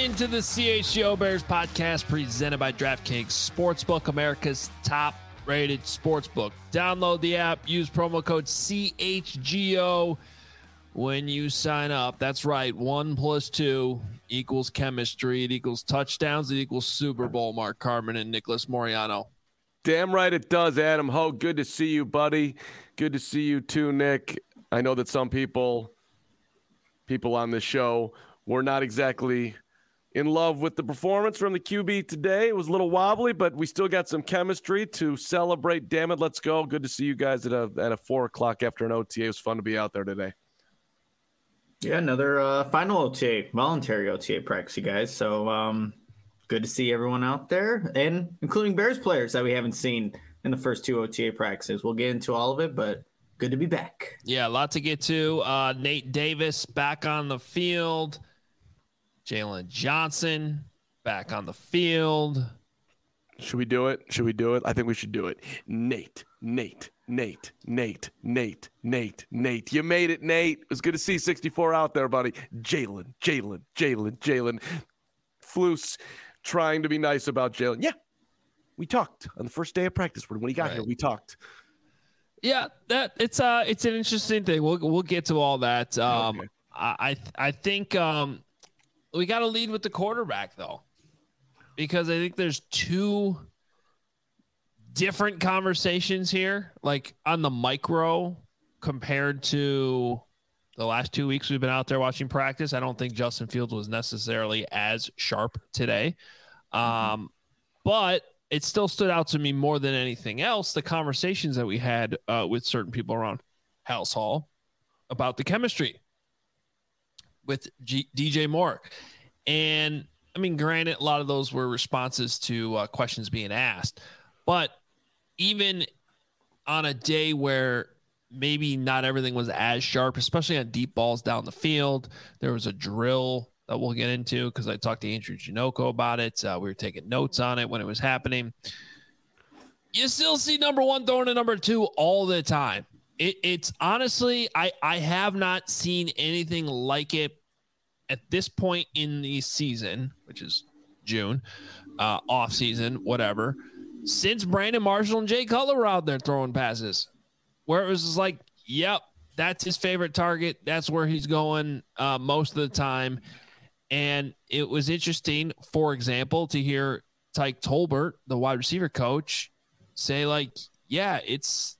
into the CHGO Bears podcast presented by DraftKings Sportsbook, America's top-rated sportsbook. Download the app, use promo code CHGO when you sign up. That's right, 1 + 2 equals chemistry. It equals touchdowns. It equals Super Bowl. Mark Carman and Nicholas Moriano. Damn right it does, Adam Ho. Good to see you, buddy. Good to see you too, Nick. I know that some people on this show were not exactly in love with the performance from the QB today. It was a little wobbly, but we still got some chemistry to celebrate. Damn it, let's go. Good to see you guys at a 4 o'clock after an OTA. It was fun to be out there today. Yeah, another final OTA, voluntary OTA practice, you guys. So good to see everyone out there, and including Bears players that we haven't seen in the first 2 OTA practices. We'll get into all of it, but good to be back. Yeah, a lot to get to. Nate Davis back on the field. Jalen Johnson back on the field. Should we do it? I think we should do it. Nate. You made it, Nate. It was good to see 64 out there, buddy. Jalen. Flus trying to be nice about Jalen. Yeah, we talked on the first day of practice. When he got here, we talked. Yeah, it's an interesting thing. We'll get to all that. Okay. I think we got to lead with the quarterback though, because I think there's 2 different conversations here, like on the micro compared to the last 2 weeks we've been out there watching practice. I don't think Justin Fields was necessarily as sharp today, but it still stood out to me more than anything else, the conversations that we had with certain people around House Hall about the chemistry with DJ Moore. And, I mean, granted, a lot of those were responses to questions being asked. But even on a day where maybe not everything was as sharp, especially on deep balls down the field, there was a drill that we'll get into because I talked to Andrew Janoko about it. We were taking notes on it when it was happening. You still see number 1 throwing to number 2 all the time. It's honestly, I have not seen anything like it at this point in the season, which is June, off season, whatever, since Brandon Marshall and Jay Cutler were out there throwing passes, where it was just like, yep, that's his favorite target. That's where he's going most of the time. And it was interesting, for example, to hear Tyke Tolbert, the wide receiver coach, say like, yeah, it's,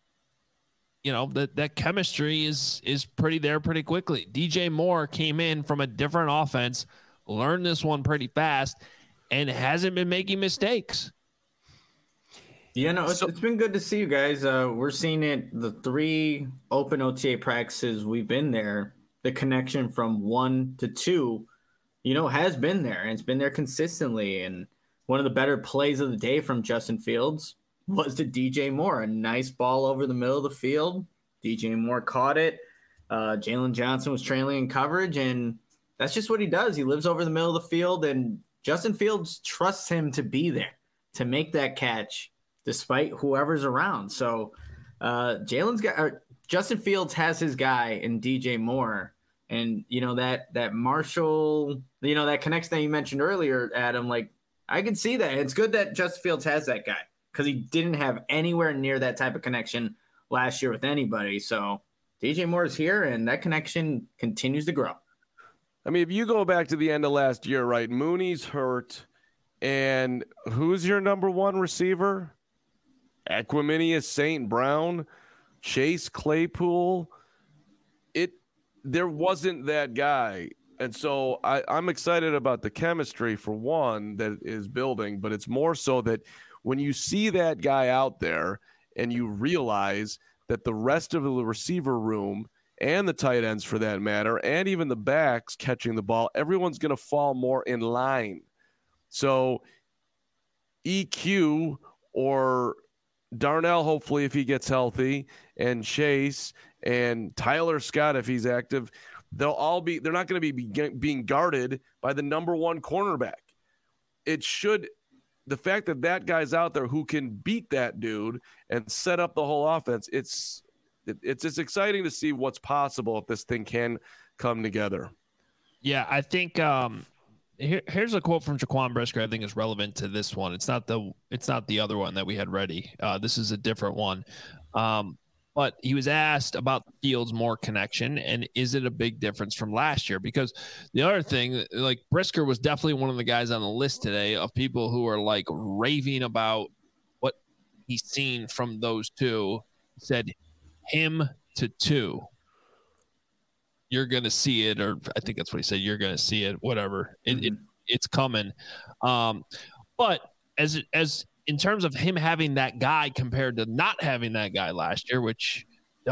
that chemistry is pretty there pretty quickly. DJ Moore came in from a different offense, learned this one pretty fast, and hasn't been making mistakes. Yeah, no, it's been good to see you guys. We're seeing it, the 3 open OTA practices we've been there, the connection from 1 to 2, has been there, and it's been there consistently. And one of the better plays of the day from Justin Fields was to DJ Moore. A nice ball over the middle of the field. DJ Moore caught it. Jalen Johnson was trailing in coverage, and that's just what he does. He lives over the middle of the field, and Justin Fields trusts him to be there, to make that catch, despite whoever's around. So Justin Fields has his guy in DJ Moore. And, that Marshall, that connection that you mentioned earlier, Adam, like, I can see that. It's good that Justin Fields has that guy because he didn't have anywhere near that type of connection last year with anybody. So DJ Moore is here, and that connection continues to grow. I mean, if you go back to the end of last year, right, Mooney's hurt, and who's your number 1 receiver? Equiminius St. Brown, Chase Claypool. There wasn't that guy. And so I'm excited about the chemistry, for one, that is building, but it's more so that when you see that guy out there and you realize that the rest of the receiver room and the tight ends, for that matter, and even the backs catching the ball, everyone's going to fall more in line. So EQ or Darnell, hopefully, if he gets healthy, and Chase and Tyler Scott, if he's active, they're not going to be being guarded by the number 1 cornerback. The fact that guy's out there who can beat that dude and set up the whole offense, it's exciting to see what's possible if this thing can come together. Yeah, I think here's a quote from Jaquan Brisker I think is relevant to this one. It's not the other one that we had ready. This is a different one. But he was asked about the Fields Moore connection and is it a big difference from last year? Because the other thing, like Brisker was definitely one of the guys on the list today of people who are like raving about what he's seen from those two. He said him to 2. You're going to see it, or I think that's what he said. You're going to see it, whatever. It's coming. But as in terms of him having that guy compared to not having that guy last year, which,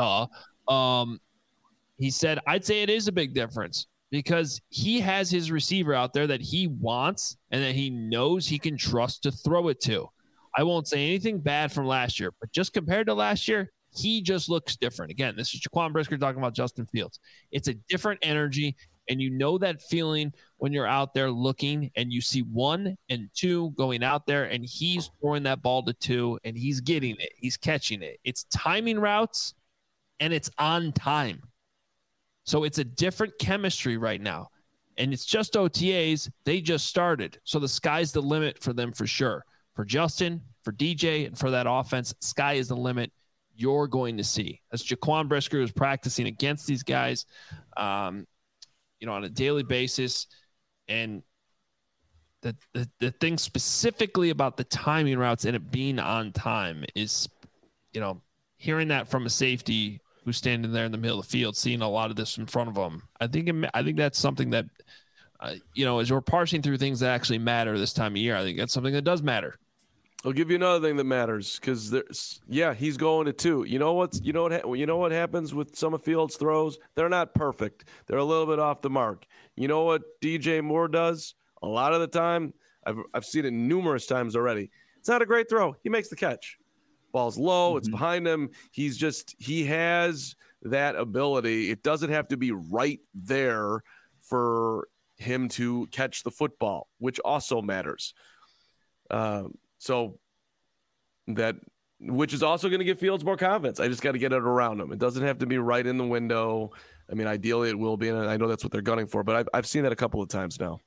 he said, I'd say it is a big difference because he has his receiver out there that he wants and that he knows he can trust to throw it to. I won't say anything bad from last year, but just compared to last year, he just looks different. Again, this is Jaquan Brisker talking about Justin Fields. It's a different energy, and you know that feeling when you're out there looking and you see 1 and 2 going out there, and he's throwing that ball to 2, and he's getting it. He's catching it. It's timing routes, and it's on time. So it's a different chemistry right now, and it's just OTAs. They just started, so the sky's the limit for them for sure. For Justin, for DJ, and for that offense, sky is the limit. You're going to see. As Jaquan Brisker is practicing against these guys, on a daily basis. And the thing specifically about the timing routes and it being on time is, hearing that from a safety who's standing there in the middle of the field, seeing a lot of this in front of them. I think that's something that, as we're parsing through things that actually matter this time of year, I think that's something that does matter. I'll give you another thing that matters because he's going to 2. You know what happens with some of Fields' throws? They're not perfect. They're a little bit off the mark. You know what DJ Moore does? A lot of the time, I've seen it numerous times already. It's not a great throw. He makes the catch. Ball's low. It's behind him. He has that ability. It doesn't have to be right there for him to catch the football, which also matters. So which is also going to give Fields more confidence. I just got to get it around him. It doesn't have to be right in the window. I mean, ideally it will be, and I know that's what they're gunning for, but I've seen that a couple of times now.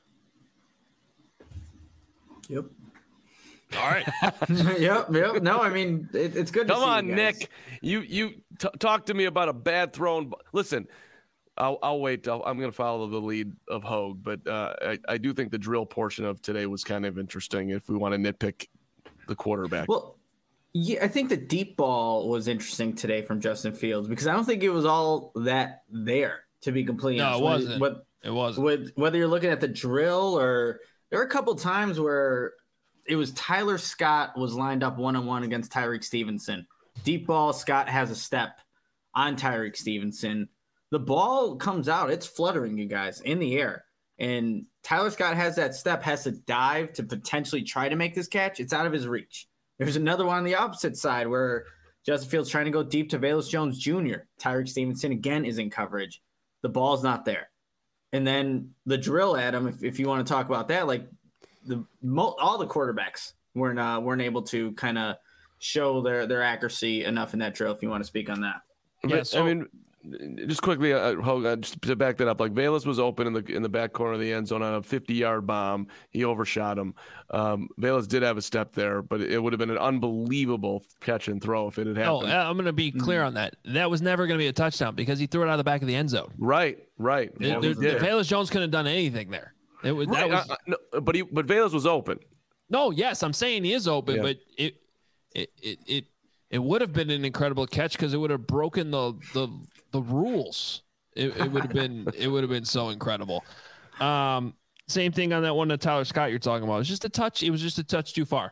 Yep. All right. Yep. No, I mean, it's good to see. Come on, Nick. You talk to me about a bad thrown. Listen, I'll wait. I'm going to follow the lead of Hogue, but I do think the drill portion of today was kind of interesting if we want to nitpick the quarterback. Well, yeah, I think the deep ball was interesting today from Justin Fields because I don't think it was all that there, to be completely honest. No, it wasn't. It wasn't. Whether you're looking at the drill or there were a couple times where it was Tyler Scott was lined up one-on-one against Tyreek Stevenson. Deep ball, Scott has a step on Tyreek Stevenson. The ball comes out, it's fluttering, you guys, in the air. And Tyler Scott has that step, has to dive to potentially try to make this catch. It's out of his reach. There's another one on the opposite side where Justin Fields trying to go deep to Velus Jones Jr. Tyreek Stevenson, again, is in coverage. The ball's not there. And then the drill, Adam, if you want to talk about that, like all the quarterbacks weren't able to kind of show their accuracy enough in that drill, if you want to speak on that. Yeah, I mean, just quickly, just to back that up, like Velus was open in the back corner of the end zone on a 50-yard bomb. He overshot him. Velus did have a step there, but it would have been an unbelievable catch and throw if it had happened. Oh, I'm going to be clear on that. That was never going to be a touchdown because he threw it out of the back of the end zone. Right. Velus Jones couldn't have done anything there. But Velus was open. No, yes, I'm saying he is open, but it would have been an incredible catch because it would have broken the rules. It would have been so incredible. Same thing on that one that Tyler Scott you're talking about. It was just a touch. It was just a touch too far.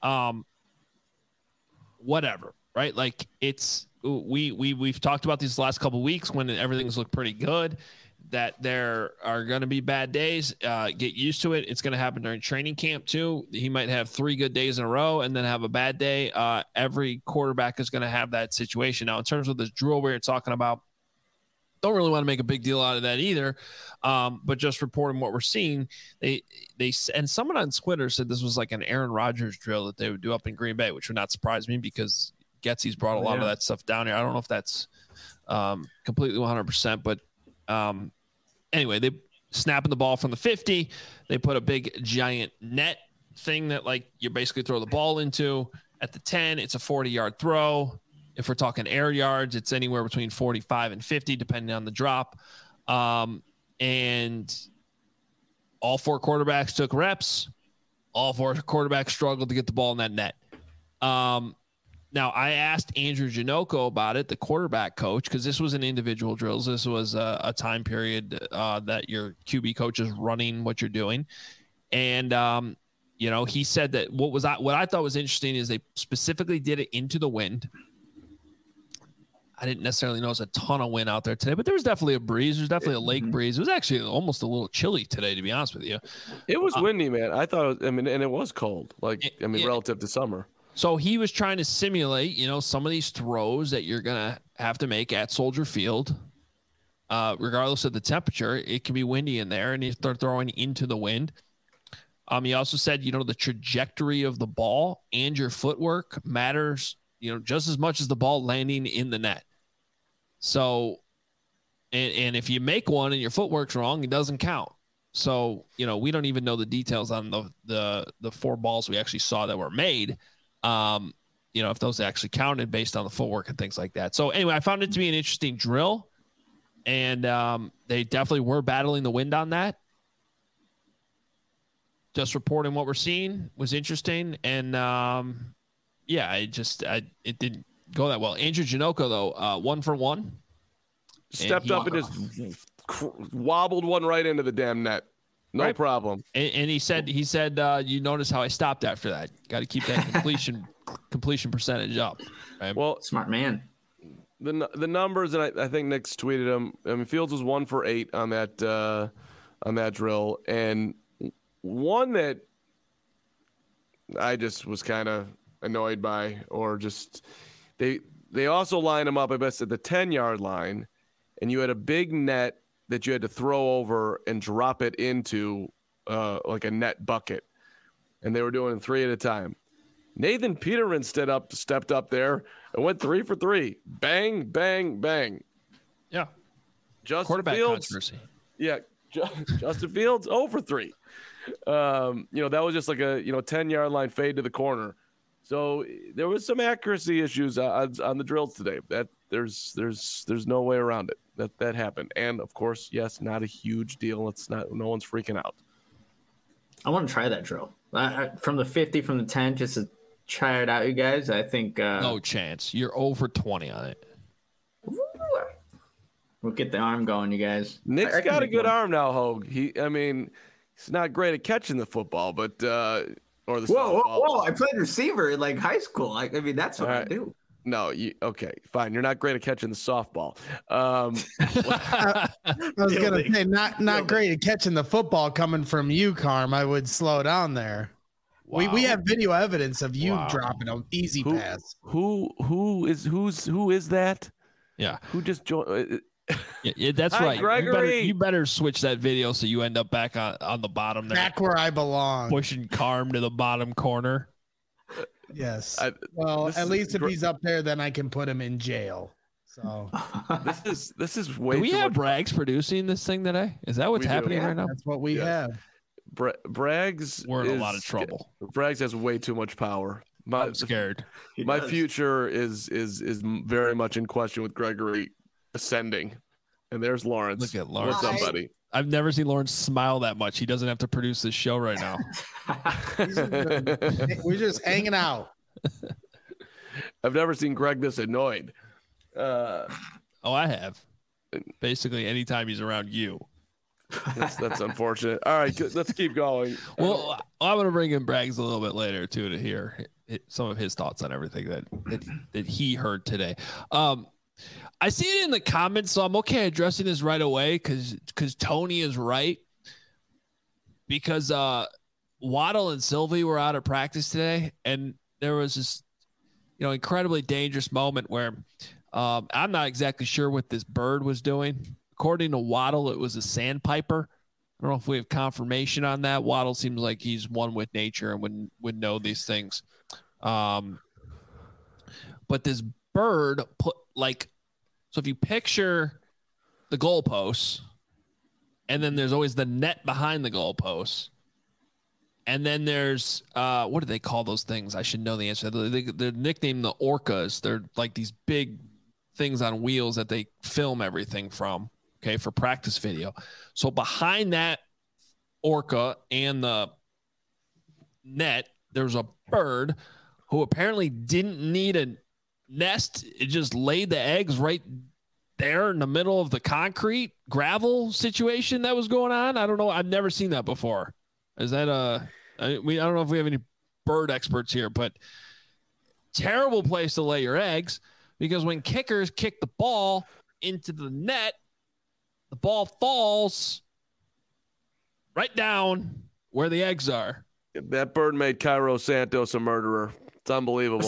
Whatever, right? Like we've talked about these last couple of weeks when everything's looked pretty good. That there are going to be bad days. Get used to it. It's going to happen during training camp too. He might have 3 good days in a row and then have a bad day. Every quarterback is going to have that situation. Now, in terms of this drill we're talking about, don't really want to make a big deal out of that either. But just reporting what we're seeing, and someone on Twitter said this was like an Aaron Rodgers drill that they would do up in Green Bay, which would not surprise me because Getsy's brought a lot of that stuff down here. I don't know if that's completely 100%, but anyway, snapping the ball from the 50. They put a big giant net thing that like you basically throw the ball into. At the 10, it's a 40-yard throw. If we're talking air yards, it's anywhere between 45 and 50, depending on the drop. And all 4 quarterbacks took reps. All 4 quarterbacks struggled to get the ball in that net. Now, I asked Andrew Janocko about it, the quarterback coach, because this was an individual drills. This was a time period that your QB coach is running what you're doing. And, he said that what I thought was interesting is they specifically did it into the wind. I didn't necessarily know there's a ton of wind out there today, but there was definitely a breeze. There's definitely a lake breeze. It was actually almost a little chilly today, to be honest with you. It was windy, man. I thought, and it was cold, relative to summer. So he was trying to simulate, some of these throws that you're going to have to make at Soldier Field, regardless of the temperature. It can be windy in there, and they're throwing into the wind. He also said, the trajectory of the ball and your footwork matters, just as much as the ball landing in the net. So, and if you make one and your footwork's wrong, it doesn't count. So, we don't even know the details on the 4 balls we actually saw that were made. If those actually counted based on the footwork and things like that. So anyway, I found it to be an interesting drill, and they definitely were battling the wind on that. Just reporting what we're seeing was interesting. And it didn't go that well. Andrew Janocko, though, 1 for 1. Stepped up and just wobbled one right into the damn net. No problem. And he said, you notice how I stopped after that. Got to keep that completion percentage up. Right? Well, smart man. The numbers, and I think Nick's tweeted them. I mean, Fields was 1 for 8 on that drill, and one that I just was kind of annoyed by, or just they also line him up, I guess, at the 10-yard line, and you had a big net that you had to throw over and drop it into like a net bucket. And they were doing 3 at a time. Nathan Peterman stepped up there and went 3 for 3. Bang, bang, bang. Yeah. Justin Quarterback Fields. controversy. Yeah. Justin Fields, 0 for 3. That was just like a 10-yard line fade to the corner. So there was some accuracy issues on the drills today. That there's no way around it. That happened. And of course, yes, not a huge deal. No one's freaking out. I want to try that drill from the 50, from the 10, just to try it out, you guys. I think no chance. You're over 20 on it. We'll get the arm going, you guys. Nick's got a good arm now, Hogue. He's not great at catching the football, but or the softball. Whoa! I played receiver in like high school. I mean, that's what I do. No, okay, fine. You're not great at catching the softball. I was gonna say not great at catching the football coming from you, Carm. I would slow down there. Wow. We have video evidence of you dropping an easy pass. Who is that? Yeah, who just joined? Yeah, that's Hi, right. Gregory. You better switch that video so you end up back on the bottom there. Back where I belong. Pushing Carm to the bottom corner. Yes. At least if he's up there, then I can put him in jail. So this is way. Do we too have much Braggs producing this thing today? Is that what's happening right now? That's what we have. Braggs. We're in a lot of trouble. Braggs has way too much power. I'm scared. My future is very much in question with Gregory ascending. And there's Lawrence. Look at Lawrence. What's up, buddy? I've never seen Lawrence smile that much. He doesn't have to produce this show right now. We're just hanging out. I've never seen Greg this annoyed. I have. Basically, anytime he's around you. That's unfortunate. All right, let's keep going. Well, I'm going to bring in Braggs a little bit later, too, to hear some of his thoughts on everything that he heard today. I see it in the comments, so I'm okay addressing this right away because Tony is right. Because Waddle and Sylvie were out of practice today, and there was this, incredibly dangerous moment where I'm not exactly sure what this bird was doing. According to Waddle, it was a sandpiper. I don't know if we have confirmation on that. Waddle seems like he's one with nature and would know these things. But this bird put so if you picture the goalposts and then there's always the net behind the goalposts. And then there's what do they call those things? I should know the answer. They're nicknamed the Orcas. They're like these big things on wheels that they film everything from, okay, for practice video. So behind that Orca and the net, there's a bird who apparently didn't need a nest. It just laid the eggs right there in the middle of the concrete gravel situation that was going on. I don't know. I've never seen that before. Is that I don't know if we have any bird experts here, but terrible place to lay your eggs, because when kickers kick the ball into the net, the ball falls right down where the eggs are. That bird made Cairo Santos a murderer. It's unbelievable.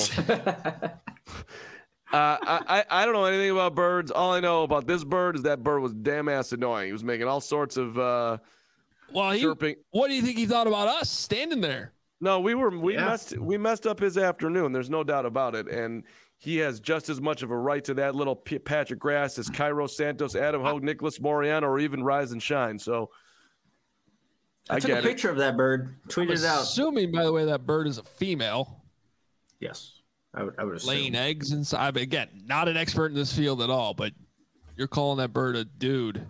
I don't know anything about birds. All I know about this bird is that bird was damn ass annoying. He was making all sorts of chirping. What do you think he thought about us standing there? No, we messed up his afternoon. There's no doubt about it. And he has just as much of a right to that little patch of grass as Cairo Santos, Adam Hogue, Nicholas Moreano, or even Rise and Shine. So I took a picture of that bird, tweeted it out. Assuming, by the way, that bird is a female. Yes, I would assume. Laying eggs inside. Again, not an expert in this field at all, but you're calling that bird a dude.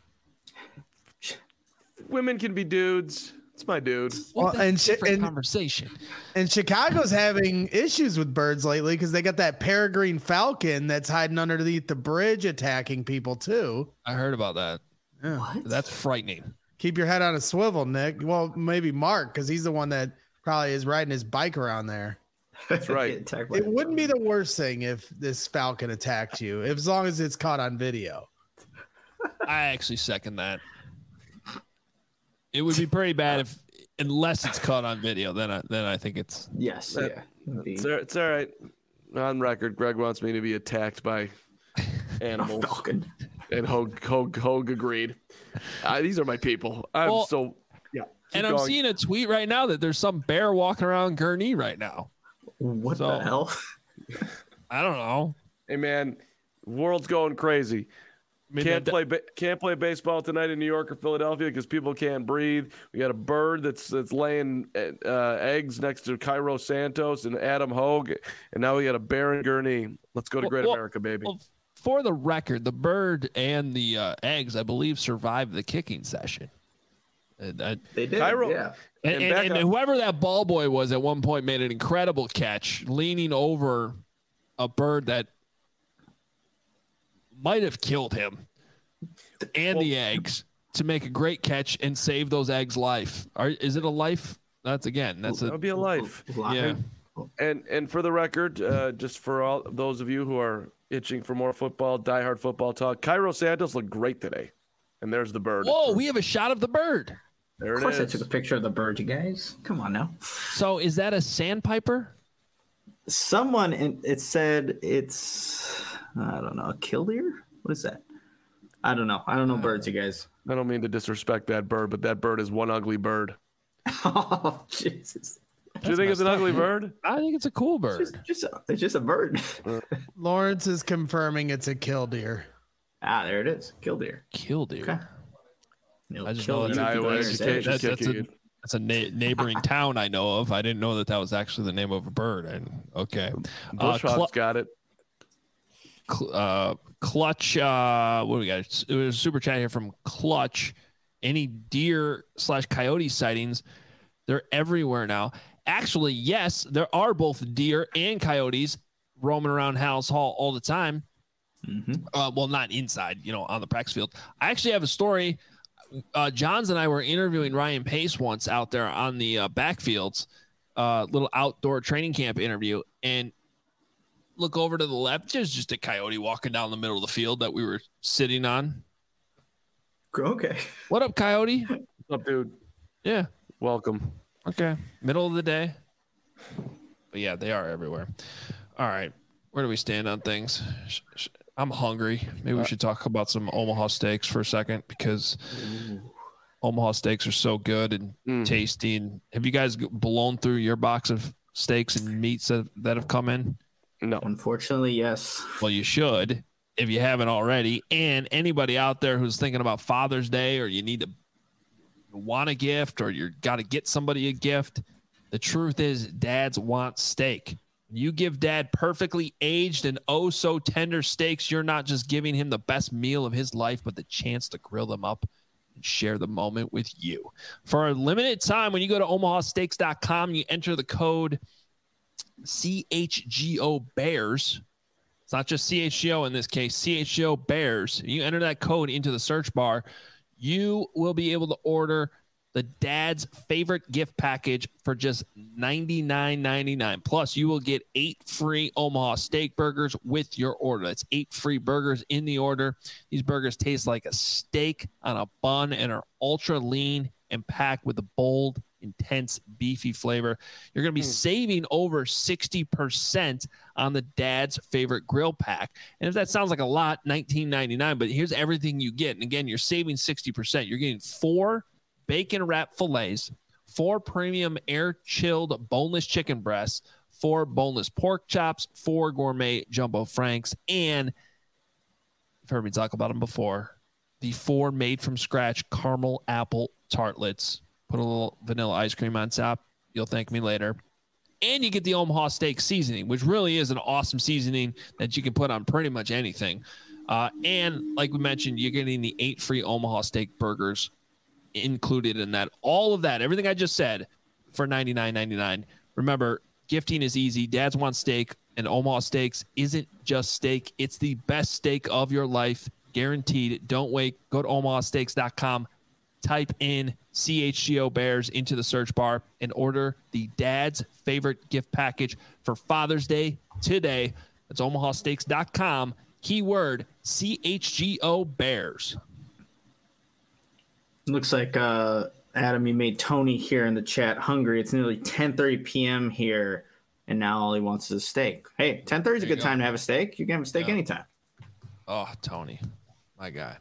Women can be dudes. It's my dude. Well, and conversation. And Chicago's having issues with birds lately because they got that peregrine falcon that's hiding underneath the bridge attacking people too. I heard about that. Yeah. What? That's frightening. Keep your head on a swivel, Nick. Well, maybe Mark, because he's the one that probably is riding his bike around there. That's right. It wouldn't be the worst thing if this falcon attacked you, as long as it's caught on video. I actually second that. It would be pretty bad unless it's caught on video. Then I think it's yes. It's all right. On record, Greg wants me to be attacked by animals. Falcon. And Hogue agreed. These are my people. I'm seeing a tweet right now that there's some bear walking around Gurnee right now. What the hell? I don't know. Hey man, world's going crazy. Can't play baseball tonight in New York or Philadelphia because people can't breathe. We got a bird that's laying eggs next to Cairo Santos and Adam Hogue, and now we got a bear in Gurnee. Let's go to Great America, baby. Well, for the record, the bird and the eggs, I believe, survived the kicking session. They did, Cairo, yeah. And whoever that ball boy was at one point made an incredible catch, leaning over a bird that might have killed him and the eggs to make a great catch and save those eggs' life. Is it a life? That would be a life. Yeah. And for the record, just for all those of you who are itching for more football, diehard football talk, Cairo Santos looked great today. And there's the bird. Whoa, we have a shot of the bird. There it is. Of course I took a picture of the bird, you guys. Come on now. So is that a sandpiper? It said it's, I don't know, a killdeer? What is that? I don't know. I don't know birds, you guys. I don't mean to disrespect that bird, but that bird is one ugly bird. Oh, Jesus. Do you think it's an ugly bird? I think it's a cool bird. It's just a bird. Lawrence is confirming it's a killdeer. There it is. Killdeer. Killdeer. Okay. I just know that's a neighboring town I know of. I didn't know that was actually the name of a bird. And okay, Bushhawk's got it. Clutch. What do we got? It was a super chat here from Clutch. Any deer/coyote sightings? They're everywhere now. Actually, yes, there are both deer and coyotes roaming around Hallis Hall all the time. Mm-hmm. Well, not inside, on the practice field. I actually have a story. Johns and I were interviewing Ryan Pace once out there on the backfields, little outdoor training camp interview, and look over to the left. There's just a coyote walking down the middle of the field that we were sitting on. Okay. What up, coyote? What's up, dude? Yeah. Welcome. Okay. Middle of the day. But yeah, they are everywhere. All right. Where do we stand on things? I'm hungry. Maybe we should talk about some Omaha steaks for a second because Omaha steaks are so good and tasty. And have you guys blown through your box of steaks and meats that have come in? No. Unfortunately, yes. Well, you should. if you haven't already. And anybody out there who's thinking about Father's Day, or you want a gift, or you got to get somebody a gift, the truth is dads want steak. You give dad perfectly aged and oh so tender steaks, you're not just giving him the best meal of his life, but the chance to grill them up and share the moment with you. For a limited time, when you go to omahasteaks.com, you enter the code CHGO Bears. It's not just CHGO in this case, CHGO Bears. You enter that code into the search bar, you will be able to order the dad's favorite gift package for just $99.99. Plus, you will get 8 free Omaha steak burgers with your order. That's 8 free burgers in the order. These burgers taste like a steak on a bun and are ultra lean and packed with a bold, intense, beefy flavor. You're going to be saving over 60% on the dad's favorite grill pack. And if that sounds like a lot, $19.99, but here's everything you get. And again, you're saving 60%. You're getting 4 bacon wrap fillets, 4 premium air chilled boneless chicken breasts, 4 boneless pork chops, 4 gourmet jumbo franks, and you've heard me talk about them before, the 4 made from scratch caramel apple tartlets. Put a little vanilla ice cream on top. You'll thank me later. And you get the Omaha steak seasoning, which really is an awesome seasoning that you can put on pretty much anything. And like we mentioned, you're getting the 8 free Omaha steak burgers included in that. All of that, everything I just said, for $99.99. Remember, gifting is easy. Dads want steak, and Omaha Steaks isn't just steak. It's the best steak of your life, guaranteed. Don't wait. Go to omahasteaks.com. Type in CHGO Bears into the search bar and order the dad's favorite gift package for Father's Day today. That's omahasteaks.com. Keyword CHGO Bears. Looks like Adam, you made Tony here in the chat hungry. It's nearly 10:30 p.m. here, and now all he wants is a steak. Hey, 10:30 is a good time to have a steak. You can have a steak anytime. Oh, Tony, my guy.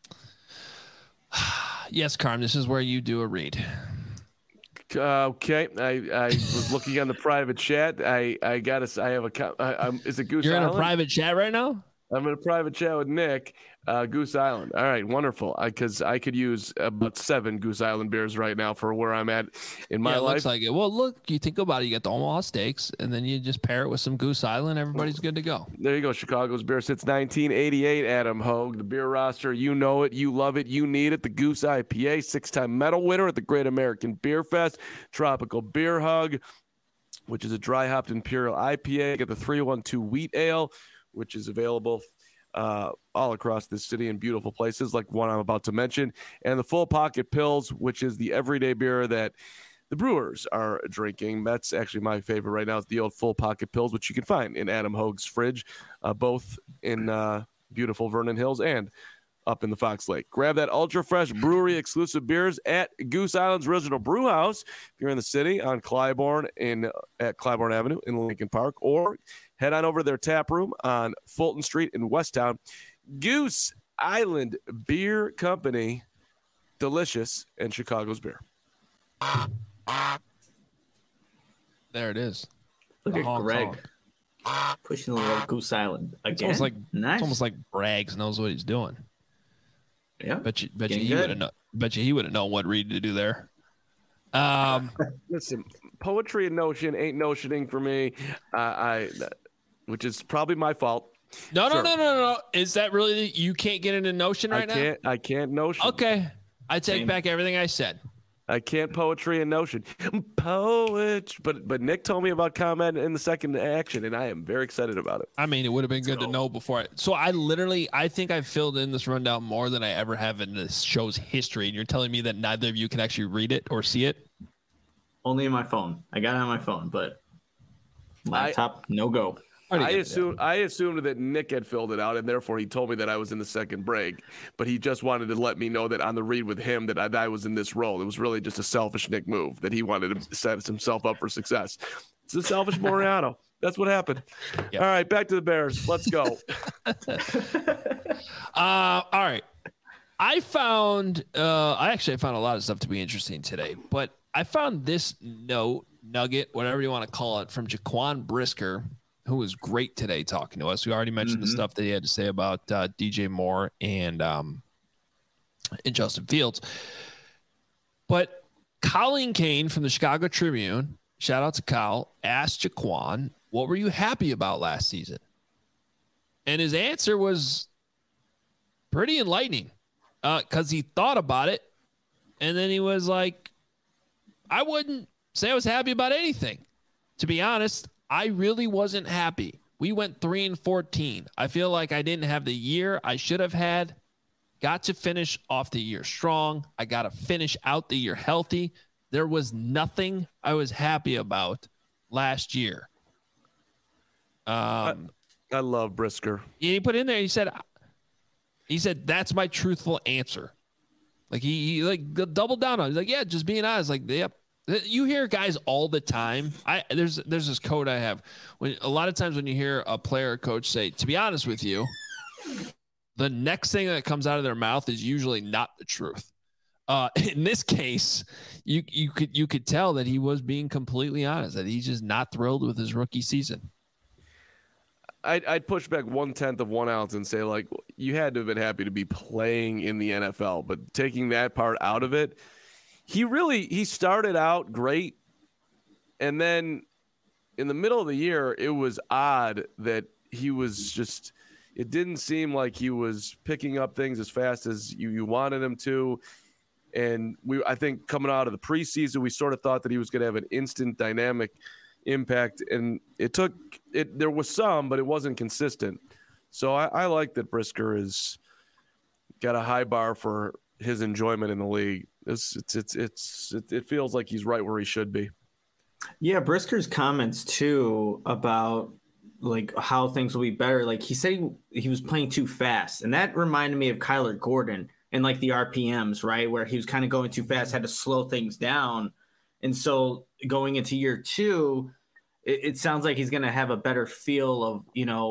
Yes, Carm, this is where you do a read. Okay, I was looking on the private chat. I have a. Is it Goose You're Island? in a private chat right now? I'm in a private chat with Nick, Goose Island. All right, wonderful. Because I could use about 7 Goose Island beers right now for where I'm at in my life. Looks like it. Well, look, you think about it. You got the Omaha Steaks, and then you just pair it with some Goose Island. Everybody's good to go. There you go. Chicago's beer since 1988. Adam Hogue, the beer roster. You know it. You love it. You need it. The Goose IPA, 6-time medal winner at the Great American Beer Fest. Tropical Beer Hug, which is a dry hopped imperial IPA. Get the 312 Wheat Ale, which is available all across this city in beautiful places like one I'm about to mention, and the Full Pocket Pils, which is the everyday beer that the brewers are drinking. That's actually my favorite right now. It's the old Full Pocket Pils, which you can find in Adam Hogue's fridge, both in beautiful Vernon Hills and up in the Fox Lake. Grab that ultra fresh brewery exclusive beers at Goose Island's Original Brew House if you're in the city on Clybourne at Clybourne Avenue in Lincoln Park, or head on over to their tap room on Fulton Street in Westtown. Goose Island Beer Company, delicious, and Chicago's beer. There it is. Look at Greg pushing the little Goose Island again. It's nice. It's almost like Braggs knows what he's doing. Yeah, bet you he would have known. Bet you he would have known what read to do there. Listen, poetry and notion ain't notioning for me. Which is probably my fault. No. Is that really you can't get into notion right now? I can't notion. Okay, I take back everything I said. I can't poetry and notion. But Nick told me about comment in the second action, and I am very excited about it. I mean, it would have been good to know before. So I think I filled in this rundown more than I ever have in this show's history. And you're telling me that neither of you can actually read it or see it? Only in my phone. I got it on my phone, but laptop, no go. I assumed that Nick had filled it out, and therefore he told me that I was in the second break. But he just wanted to let me know that on the read with him that I was in this role. It was really just a selfish Nick move that he wanted to set himself up for success. It's a selfish Moriano. That's what happened. Yep. All right, back to the Bears. Let's go. All right. I found a lot of stuff to be interesting today, but I found this nugget, whatever you want to call it, from Jaquan Brisker, who was great today talking to us. We already mentioned the stuff that he had to say about DJ Moore and Justin Fields. But Colleen Kane from the Chicago Tribune, shout out to Kyle, asked Jaquan, what were you happy about last season? And his answer was pretty enlightening because he thought about it. And then he was like, I wouldn't say I was happy about anything. To be honest, I really wasn't happy. We went 3-14. I feel like I didn't have the year I should have had. Got to finish off the year strong. I got to finish out the year healthy. There was nothing I was happy about last year. I love Brisker. He put in there, he said, that's my truthful answer. Like he like doubled down on it. He's like, yeah, just being honest. Like, yep. You hear guys all the time. There's this quote I have. When a lot of times when you hear a player or coach say, to be honest with you, the next thing that comes out of their mouth is usually not the truth. In this case, you could tell that he was being completely honest, that he's just not thrilled with his rookie season. I'd push back 1/10 of 1 ounce and say, like, you had to have been happy to be playing in the NFL, but taking that part out of it, he started out great, and then in the middle of the year, it was odd that he was just. It didn't seem like he was picking up things as fast as you wanted him to. And I think coming out of the preseason, we sort of thought that he was going to have an instant dynamic impact. And there was some, but it wasn't consistent. So I like that Brisker has got a high bar for his enjoyment in the league. It feels like he's right where he should be. Yeah, Brisker's comments too about like how things will be better. Like he said he was playing too fast. And that reminded me of Kyler Gordon and like the RPMs, right? Where he was kind of going too fast, had to slow things down. And so going into year 2, it sounds like he's going to have a better feel of,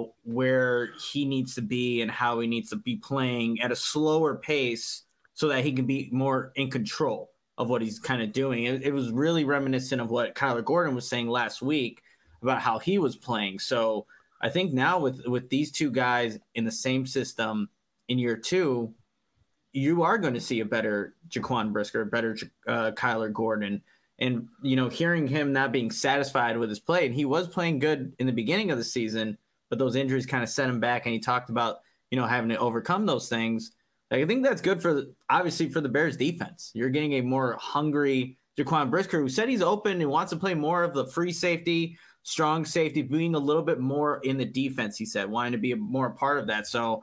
where he needs to be and how he needs to be playing at a slower pace so that he can be more in control of what he's kind of doing. It was really reminiscent of what Kyler Gordon was saying last week about how he was playing. So I think now with these two guys in the same system in year 2, you are going to see a better Jaquan Brisker, a better Kyler Gordon. And, hearing him not being satisfied with his play, and he was playing good in the beginning of the season, but those injuries kind of set him back. And he talked about, having to overcome those things. Like, I think that's good obviously for the Bears defense. You're getting a more hungry Jaquan Brisker, who said he's open and wants to play more of the free safety, strong safety, being a little bit more in the defense, he said, wanting to be more a part of that. So,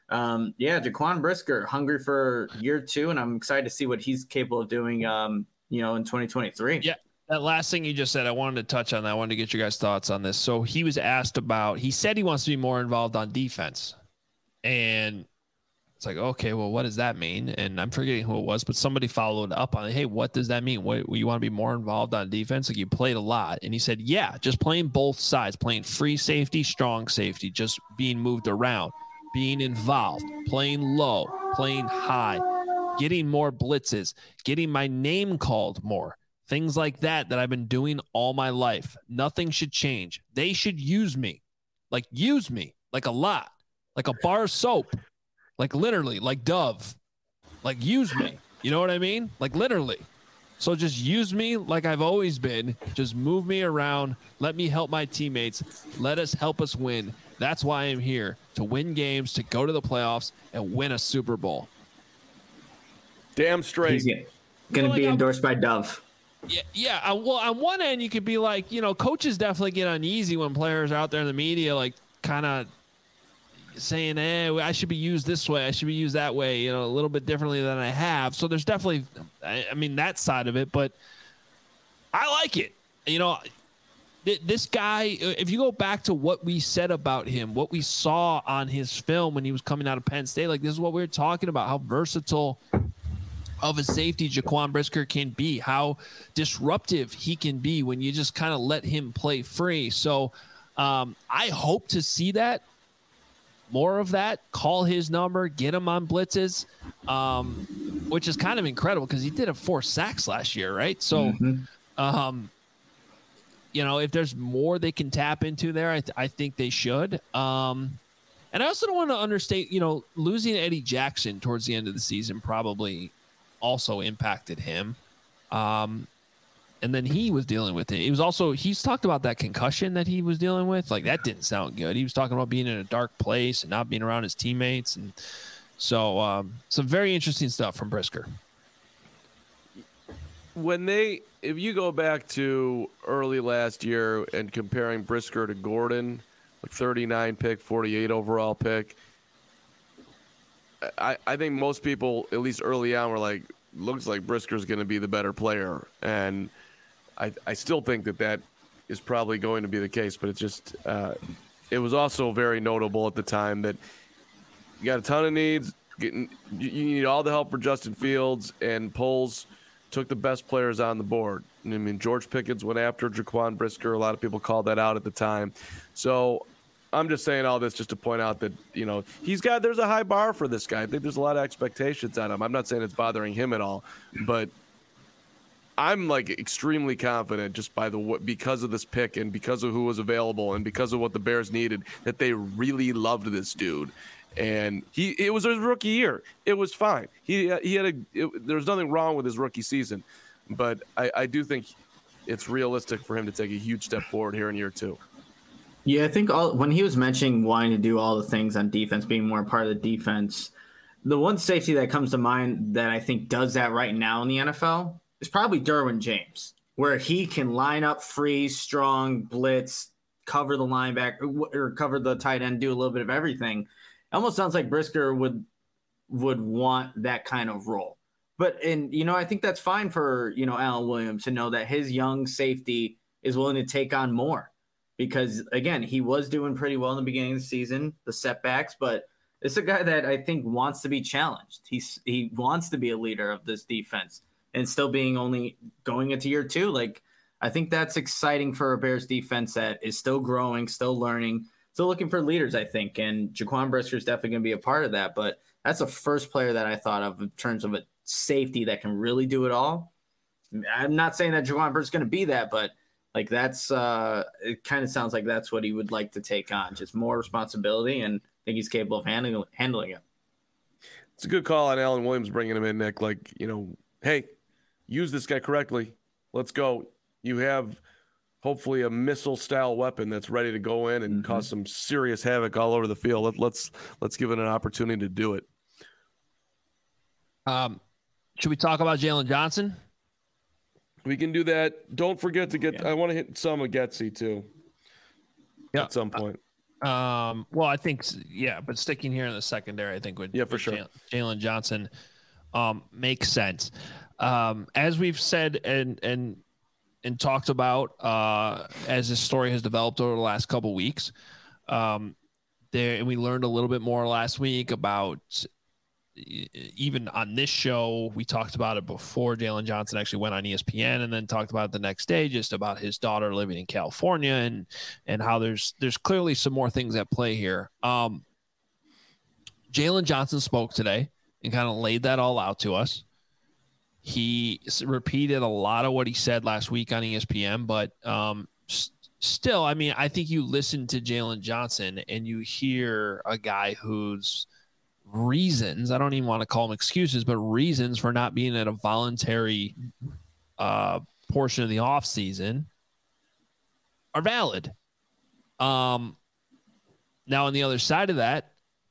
Jaquan Brisker, hungry for year 2, and I'm excited to see what he's capable of doing, in 2023. Yeah, that last thing you just said, I wanted to touch on that. I wanted to get your guys' thoughts on this. So he was asked about, he said he wants to be more involved on defense. And it's like, okay, well, what does that mean? And I'm forgetting who it was, but somebody followed up on it. Hey, what does that mean? What, you want to be more involved on defense? Like, you played a lot. And he said, yeah, just playing both sides, playing free safety, strong safety, just being moved around, being involved, playing low, playing high, getting more blitzes, getting my name called more, things like that I've been doing all my life. Nothing should change. They should use me like a lot, like a bar of soap. Like literally, like Dove, like use me. You know what I mean? Like literally. So just use me like I've always been. Just move me around. Let me help my teammates. Let us help us win. That's why I'm here, to win games, to go to the playoffs and win a Super Bowl. Damn straight. He's going to be endorsed by Dove. Yeah. Well, on one end, you could be like, coaches definitely get uneasy when players are out there in the media, like kind of saying, I should be used this way, I should be used that way, a little bit differently than I have. So there's definitely, that side of it, but I like it. This guy, if you go back to what we said about him, what we saw on his film when he was coming out of Penn State, like this is what we were talking about, how versatile of a safety Jaquan Brisker can be, how disruptive he can be when you just kind of let him play free. So I hope to see that. More of that, call his number, get him on blitzes, which is kind of incredible because he did have 4 sacks last year, right? So, if there's more they can tap into there, I think they should. And I also don't want to understate, losing Eddie Jackson towards the end of the season probably also impacted him. And then he was dealing with it. He's talked about that concussion that he was dealing with. Like, that didn't sound good. He was talking about being in a dark place and not being around his teammates. And so some very interesting stuff from Brisker. If you go back to early last year and comparing Brisker to Gordon, like 39 pick, 48 overall pick, I think most people, at least early on, were like, looks like Brisker's going to be the better player. And I still think that is probably going to be the case, but it's just it was also very notable at the time that you got a ton of needs. You need all the help for Justin Fields, and Poles took the best players on the board. I mean, George Pickens went after Jaquan Brisker. A lot of people called that out at the time. So I'm just saying all this just to point out that, there's a high bar for this guy. I think there's a lot of expectations on him. I'm not saying it's bothering him at all, but I'm like extremely confident just because of this pick and because of who was available and because of what the Bears needed, that they really loved this dude. And it was his rookie year. It was fine. There was nothing wrong with his rookie season, but I do think it's realistic for him to take a huge step forward here in year 2. Yeah, I think when he was mentioning wanting to do all the things on defense, being more a part of the defense, the one safety that comes to mind that I think does that right now in the NFL is probably Derwin James, where he can line up free, strong, blitz, cover the linebacker or cover the tight end, do a little bit of everything. Almost sounds like Brisker would want that kind of role. But I think that's fine for, Alan Williams to know that his young safety is willing to take on more, because again, he was doing pretty well in the beginning of the season, the setbacks, but it's a guy that I think wants to be challenged. He wants to be a leader of this defense, and still being only going into year 2. Like, I think that's exciting for a Bears defense that is still growing, still learning, still looking for leaders, I think. And Jaquan Brisker is definitely going to be a part of that. But that's the first player that I thought of in terms of a safety that can really do it all. I'm not saying that Jaquan Brisker is going to be that, but like that's it kind of sounds like that's what he would like to take on, just more responsibility, and I think he's capable of handling it. It's a good call on Alan Williams bringing him in, Nick. Like, hey, use this guy correctly. Let's go. You have hopefully a missile-style weapon that's ready to go in and cause some serious havoc all over the field. Let's give it an opportunity to do it. Should we talk about Jalen Johnson? We can do that. Don't forget to get. I want to hit some of Getsy too. Yeah, at some point. Well, I think but sticking here in the secondary, I think would for sure. Jalen Johnson makes sense. As we've said and talked about as this story has developed over the last couple weeks, and we learned a little bit more last week about. Even on this show, we talked about it before Jalen Johnson actually went on ESPN, and then talked about it the next day, just about his daughter living in California and how there's clearly some more things at play here. Jalen Johnson spoke today and kind of laid that all out to us. He repeated a lot of what he said last week on ESPN, but still, I mean, I think you listen to Jalen Johnson and you hear a guy who's reasons, I don't even want to call them excuses, but reasons for not being at a voluntary portion of the off season are valid. Now on the other side of that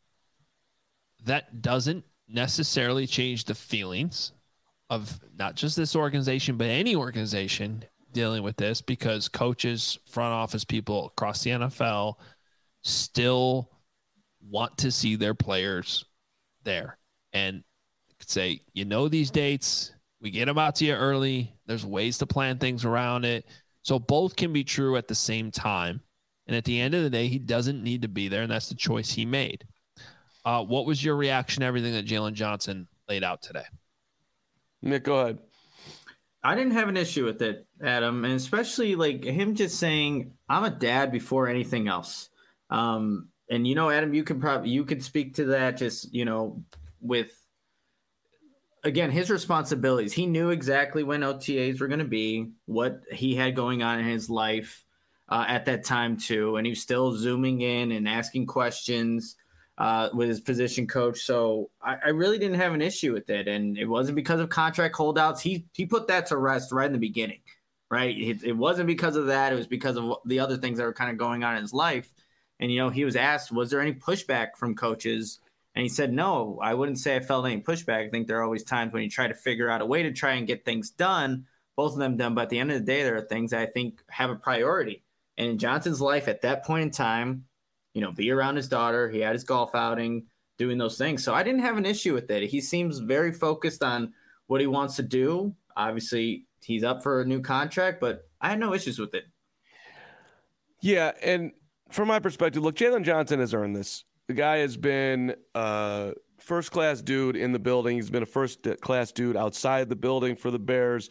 doesn't necessarily change the feelings of not just this organization, but any organization dealing with this, because coaches, front office people across the NFL still want to see their players there and say, these dates, we get them out to you early. There's ways to plan things around it. So both can be true at the same time. And at the end of the day, he doesn't need to be there. And that's the choice he made. What was your reaction to everything that Jalen Johnson laid out today? Nick, go ahead. I didn't have an issue with it, Adam. And especially like him just saying, I'm a dad before anything else. And Adam, you could speak to that just, with, again, his responsibilities. He knew exactly when OTAs were going to be, what he had going on in his life. at that time too, and he was still zooming in and asking questions with his position coach. So I really didn't have an issue with it, and it wasn't because of contract holdouts. He put that to rest right in the beginning, right? It wasn't because of that. It was because of the other things that were kind of going on in his life. And, he was asked, was there any pushback from coaches? And he said, no, I wouldn't say I felt any pushback. I think there are always times when you try to figure out a way to try and get things done, both of them done. But at the end of the day, there are things that I think have a priority. And in Johnson's life at that point in time, be around his daughter. He had his golf outing, doing those things. So I didn't have an issue with it. He seems very focused on what he wants to do. Obviously, he's up for a new contract, but I had no issues with it. Yeah, and from my perspective, look, Jalen Johnson has earned this. The guy has been a first-class dude in the building. He's been a first-class dude outside the building for the Bears.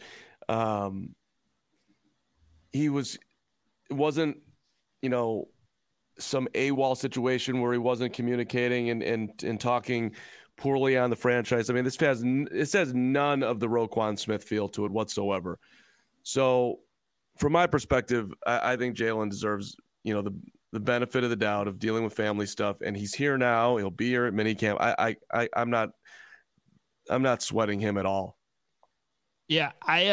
It wasn't, some AWOL situation where he wasn't communicating and talking poorly on the franchise. I mean, this has none of the Roquan Smith feel to it whatsoever. So from my perspective, I think Jalen deserves, the benefit of the doubt of dealing with family stuff, and he's here now. He'll be here at minicamp. I'm not sweating him at all. Yeah,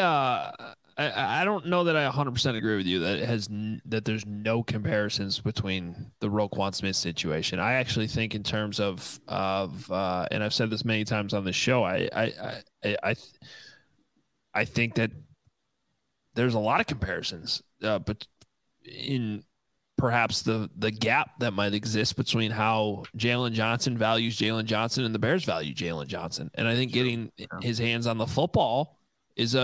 I don't know that I 100% agree with you that there's no comparisons between the Roquan Smith situation. I actually think in terms of and I've said this many times on the show, I think that there's a lot of comparisons, but in perhaps the gap that might exist between how Jalen Johnson values Jalen Johnson and the Bears value Jalen Johnson. And I think getting his hands on the football is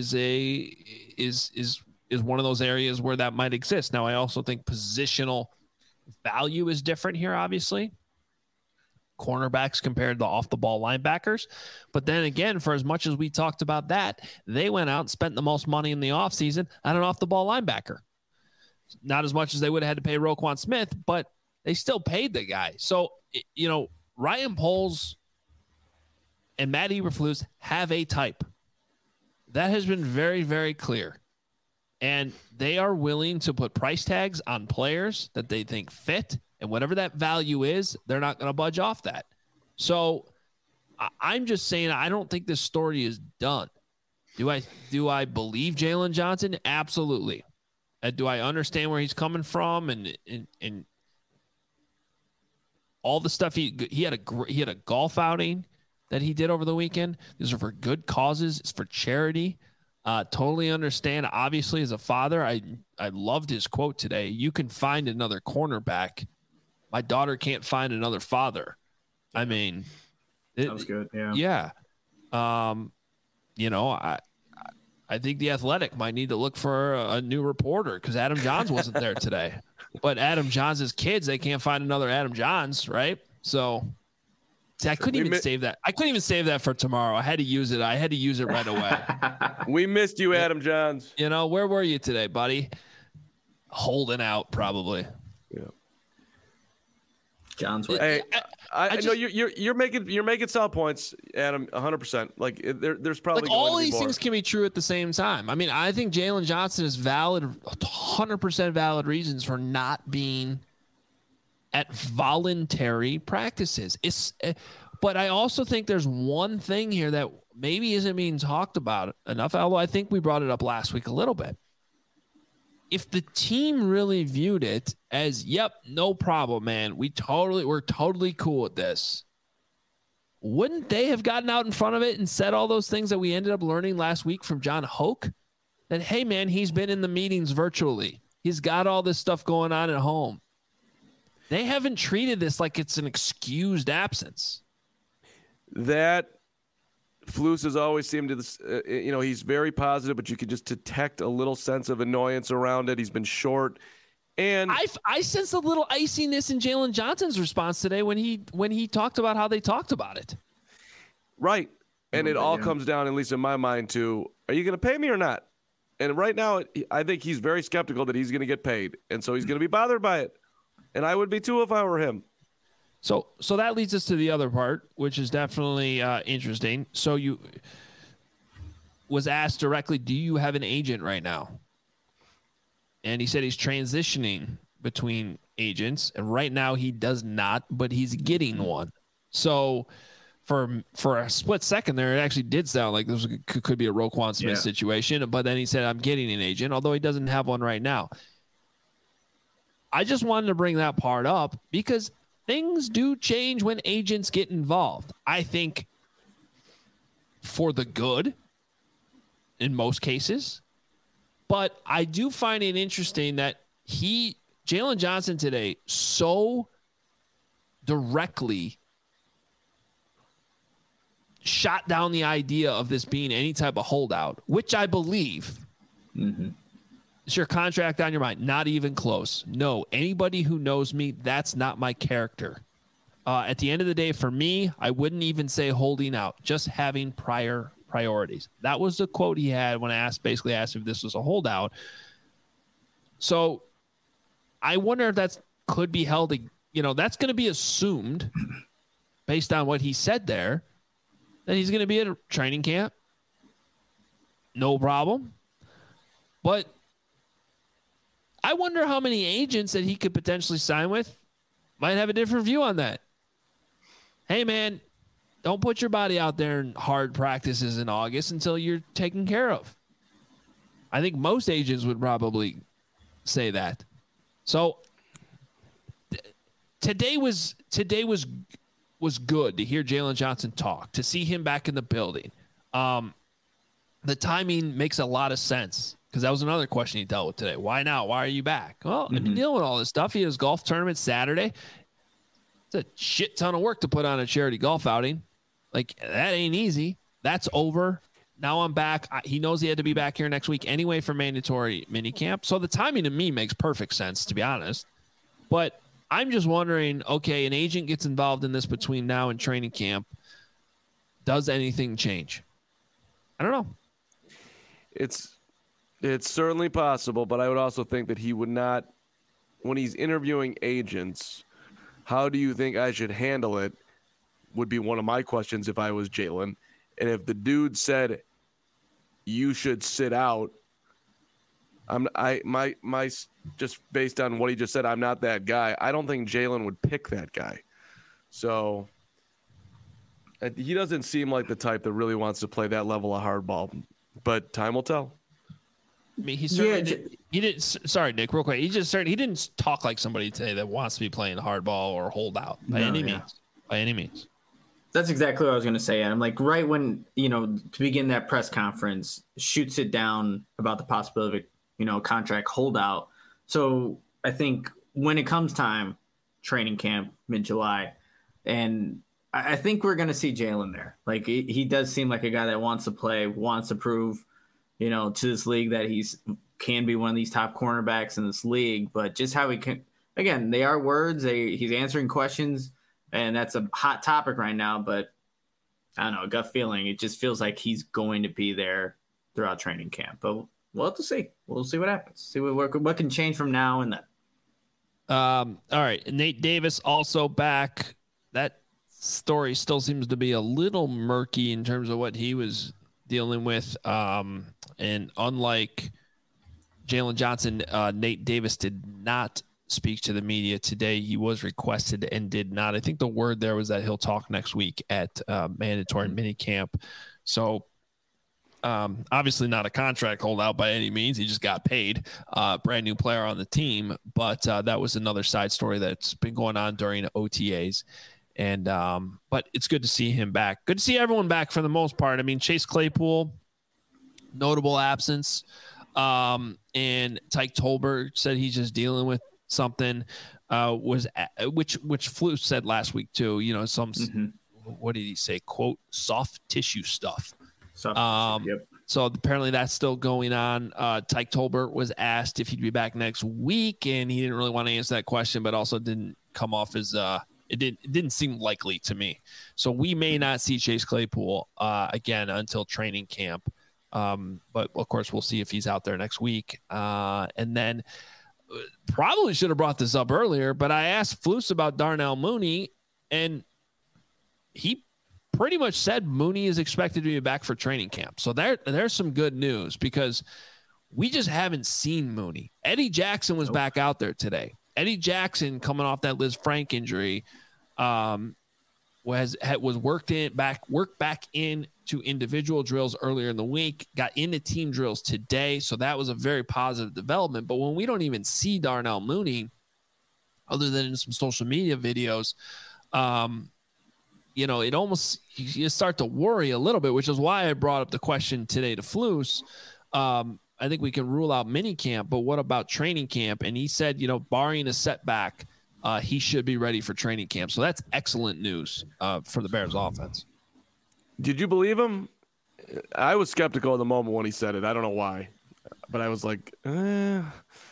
one of those areas where that might exist. Now, I also think positional value is different here, obviously. Cornerbacks compared to off the ball linebackers. But then again, for as much as we talked about that, they went out and spent the most money in the offseason on an off the ball linebacker. Not as much as they would have had to pay Roquan Smith, but they still paid the guy. So, Ryan Poles and Matt Eberflus have a type. That has been very, very clear. And they are willing to put price tags on players that they think fit. And whatever that value is, they're not going to budge off that. So I'm just saying, I don't think this story is done. Do I believe Jalen Johnson? Absolutely. Do I understand where he's coming from and all the stuff he had a golf outing that he did over the weekend. These are for good causes. It's for charity. Totally understand. Obviously, as a father, I loved his quote today. You can find another cornerback. My daughter can't find another father. I mean, that was good. Yeah. Yeah. I think the Athletic might need to look for a new reporter because Adam Johns wasn't there today. But Adam Johns' kids, they can't find another Adam Johns, right? So I couldn't even save that. I couldn't even save that for tomorrow. I had to use it. I had to use it right away. We missed you, Adam Johns. Where were you today, buddy? Holding out, probably. Yeah. John's. Hey, I know you're making solid points, Adam. 100%. Like there's probably all these things can be true at the same time. I mean, I think Jalen Johnson is valid, 100% valid reasons for not being at voluntary practices. But I also think there's one thing here that maybe isn't being talked about enough. Although I think we brought it up last week a little bit. If the team really viewed it as, yep, no problem, man, we're totally cool with this, wouldn't they have gotten out in front of it and said all those things that we ended up learning last week from John Hoke? That, hey, man, he's been in the meetings virtually. He's got all this stuff going on at home. They haven't treated this like it's an excused absence. That Flus has always seemed to, he's very positive, but you could just detect a little sense of annoyance around it. He's been short, and I sense a little iciness in Jalen Johnson's response today when he talked about how they talked about it. Right, and it all comes down, at least in my mind, to are you going to pay me or not? And right now, I think he's very skeptical that he's going to get paid, and so he's going to be bothered by it. And I would be too if I were him. So that leads us to the other part, which is definitely interesting. So you was asked directly, do you have an agent right now? and he said he's transitioning between agents, and right now he does not, but he's getting one. So for a split second there, it actually did sound like this could be a Roquan Smith situation, but then he said, I'm getting an agent, although he doesn't have one right now. I just wanted to bring that part up because things do change when agents get involved. I think for the good in most cases, but I do find it interesting that Jalen Johnson today so directly shot down the idea of this being any type of holdout, which I believe is your contract on your mind. Not even close. No, anybody who knows me, that's not my character. At the end of the day, for me, I wouldn't even say holding out, just having priorities. That was the quote he had when I basically asked if this was a holdout. So I wonder if that could be held, that's going to be assumed based on what he said there, that he's going to be at a training camp. No problem. But I wonder how many agents that he could potentially sign with might have a different view on that. Hey, man, don't put your body out there in hard practices in August until you're taken care of. I think most agents would probably say that. So today was good to hear Jalen Johnson talk, to see him back in the building. The timing makes a lot of sense because that was another question he dealt with today. Why now? Why are you back? Well, I've been dealing with all this stuff. He has golf tournament Saturday. It's a shit ton of work to put on a charity golf outing. Like, that ain't easy. That's over. Now I'm back. He knows he had to be back here next week anyway for mandatory minicamp. So the timing to me makes perfect sense, to be honest. But I'm just wondering, okay, an agent gets involved in this between now and training camp. Does anything change? I don't know. It's certainly possible, but I would also think that he would not, when he's interviewing agents, how do you think I should handle it would be one of my questions if I was Jalen. And if the dude said you should sit out, just based on what he just said, I'm not that guy. I don't think Jalen would pick that guy. So he doesn't seem like the type that really wants to play that level of hardball, but time will tell. I mean, he didn't. Sorry, Nick, real quick. He didn't talk like somebody today that wants to be playing hardball or holdout by any means. By any means. That's exactly what I was going to say. I'm like, right when, to begin that press conference, shoots it down about the possibility of, contract holdout. So I think when it comes time, training camp, mid-July, and I think we're going to see Jalen there. Like, he does seem like a guy that wants to play, wants to prove, to this league that can be one of these top cornerbacks in this league, but just how he can, again, they are words. He's answering questions. And that's a hot topic right now, but I don't know, gut feeling. It just feels like he's going to be there throughout training camp. But we'll have to see. We'll see what happens. See what can change from now and then. All right. Nate Davis also back. That story still seems to be a little murky in terms of what he was dealing with. And unlike Jalen Johnson, Nate Davis did not speak to the media today. He was requested and did not. I think the word there was that he'll talk next week at mandatory minicamp. So obviously not a contract holdout by any means. He just got paid, brand new player on the team. But that was another side story that's been going on during OTAs. And but it's good to see him back. Good to see everyone back for the most part. I mean, Chase Claypool, notable absence. And Tyke Tolbert said he's just dealing with something, which Flus said last week too, what did he say? Quote, soft tissue stuff. Yep. So apparently that's still going on. Tyke Tolbert was asked if he'd be back next week, and he didn't really want to answer that question, but also didn't come off as it didn't seem likely to me. So we may not see Chase Claypool again until training camp. But of course we'll see if he's out there next week. And then probably should have brought this up earlier, but I asked Flus about Darnell Mooney, and he pretty much said Mooney is expected to be back for training camp. So there's some good news, because We just haven't seen Mooney. Eddie Jackson was back out there today. Eddie Jackson, coming off that Liz Frank injury, was worked back in to individual drills earlier in the week, got into team drills today. So that was a very positive development. But when we don't even see Darnell Mooney, other than in some social media videos, it almost, you start to worry a little bit, which is why I brought up the question today to Flus. I think we can rule out mini camp, but what about training camp? And he said, barring a setback, he should be ready for training camp. So that's excellent news for the Bears offense. Did you believe him? I was skeptical at the moment when he said it. I don't know why, but I was like, No,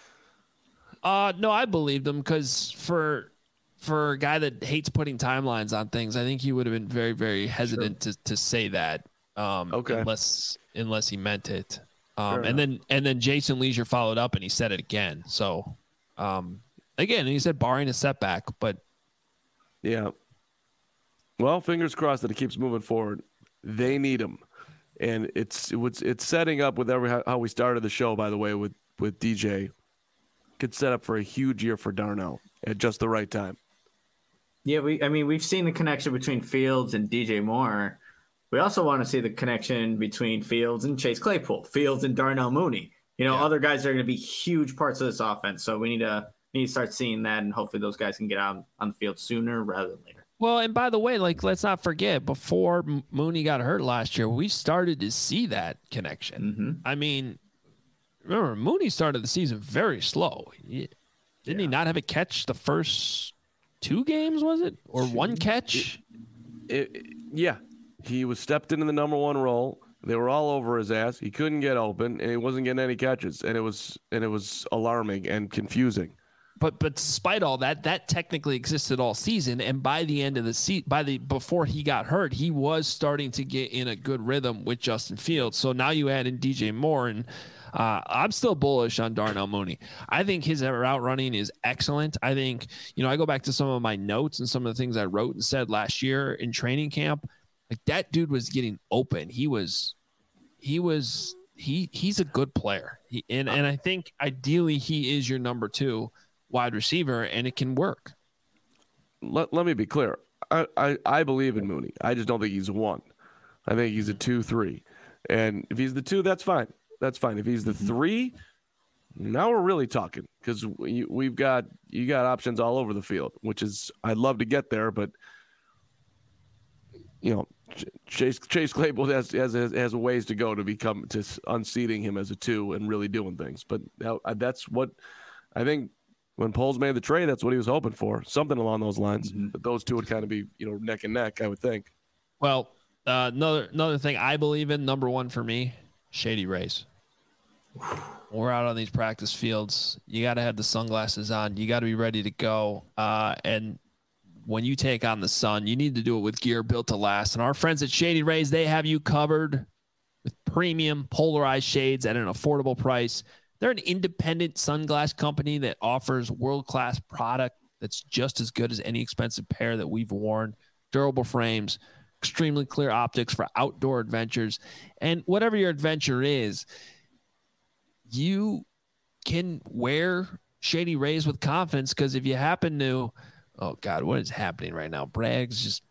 I believed him because for a guy that hates putting timelines on things, I think he would have been very, very hesitant to say that. Unless he meant it. And then Jason Leisure followed up and he said it again. So again, he said barring a setback, but yeah. Well, fingers crossed that it keeps moving forward. They need him, and it's setting up with how we started the show. By the way, with DJ, could set up for a huge year for Darnell at just the right time. Yeah, we've seen the connection between Fields and DJ Moore. We also want to see the connection between Fields and Chase Claypool, Fields and Darnell Mooney. Other guys are going to be huge parts of this offense. So we need to start seeing that, and hopefully those guys can get out on the field sooner rather than later. Well, and by the way, let's not forget, before Mooney got hurt last year, we started to see that connection. Mm-hmm. I mean, remember, Mooney started the season very slow. Didn't he not have a catch the first 2 games, was it? Or one catch? Yeah. He was stepped into the number 1 role. They were all over his ass. He couldn't get open, and he wasn't getting any catches. And it was alarming and confusing. But despite all that, that technically existed all season. And by the end of the season, before he got hurt, he was starting to get in a good rhythm with Justin Fields. So now you add in DJ Moore, and I'm still bullish on Darnell Mooney. I think his route running is excellent. I think, I go back to some of my notes and some of the things I wrote and said last year in training camp. Like, that dude was getting open. He's a good player. And I think ideally he is your number 2 wide receiver, and it can work. Let me be clear. I believe in Mooney. I just don't think he's 1. I think he's a 2-3. And if he's the 2, that's fine. That's fine. If he's the 3, now we're really talking, because you got options all over the field, which is, I'd love to get there, but Chase Claypool has ways to go to unseating him as a 2 and really doing things. But that's what I think. When Poles made the trade, that's what he was hoping for, something along those lines. Mm-hmm. But those two would kind of be, neck and neck, I would think. Well, another thing I believe in, number 1 for me, Shady Rays. We're out on these practice fields. You got to have the sunglasses on. You got to be ready to go. And when you take on the sun, you need to do it with gear built to last. And our friends at Shady Rays, they have you covered with premium polarized shades at an affordable price. They're an independent sunglass company that offers world-class product that's just as good as any expensive pair that we've worn. Durable frames, extremely clear optics for outdoor adventures. And whatever your adventure is, you can wear Shady Rays with confidence, because if you happen to, oh God, what is happening right now? Braggs just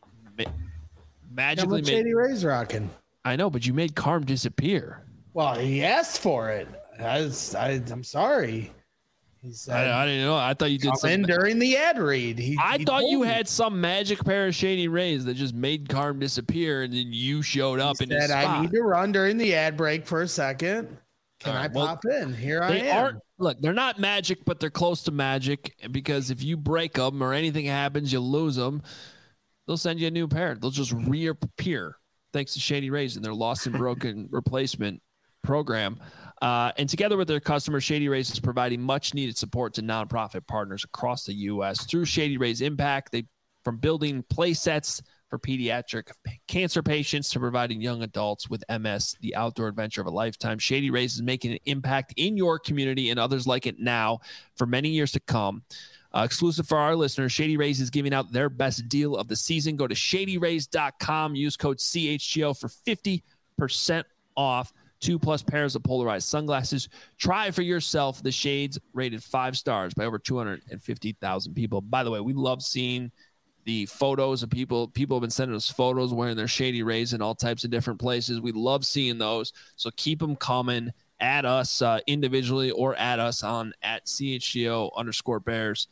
magically made Shady Rays rocking. I know, but you made Carm disappear. Well, he asked for it. I'm sorry. He said, I didn't know. I thought you did something during the ad read. I thought you had some magic pair of Shady Rays that just made Carm disappear, and then you showed up in his spot. I need to run during the ad break for a second. Can I pop in? Here I am. Look, they're not magic, but they're close to magic, because if you break them or anything happens, you lose them, they'll send you a new pair. They'll just reappear thanks to Shady Rays and their lost and broken replacement program. And together with their customers, Shady Rays is providing much needed support to nonprofit partners across the U.S. through Shady Rays Impact. From building play sets for pediatric cancer patients to providing young adults with MS the outdoor adventure of a lifetime, Shady Rays is making an impact in your community and others like it now for many years to come. Exclusive for our listeners, Shady Rays is giving out their best deal of the season. Go to shadyrays.com, use code CHGO for 50% off. 2+ pairs of polarized sunglasses. Try for yourself the shades rated 5 stars by over 250,000 people. By the way, we love seeing the photos of people. People have been sending us photos wearing their Shady Rays in all types of different places. We love seeing those. So keep them coming. Add us individually or add us on at @CHGO_Bears.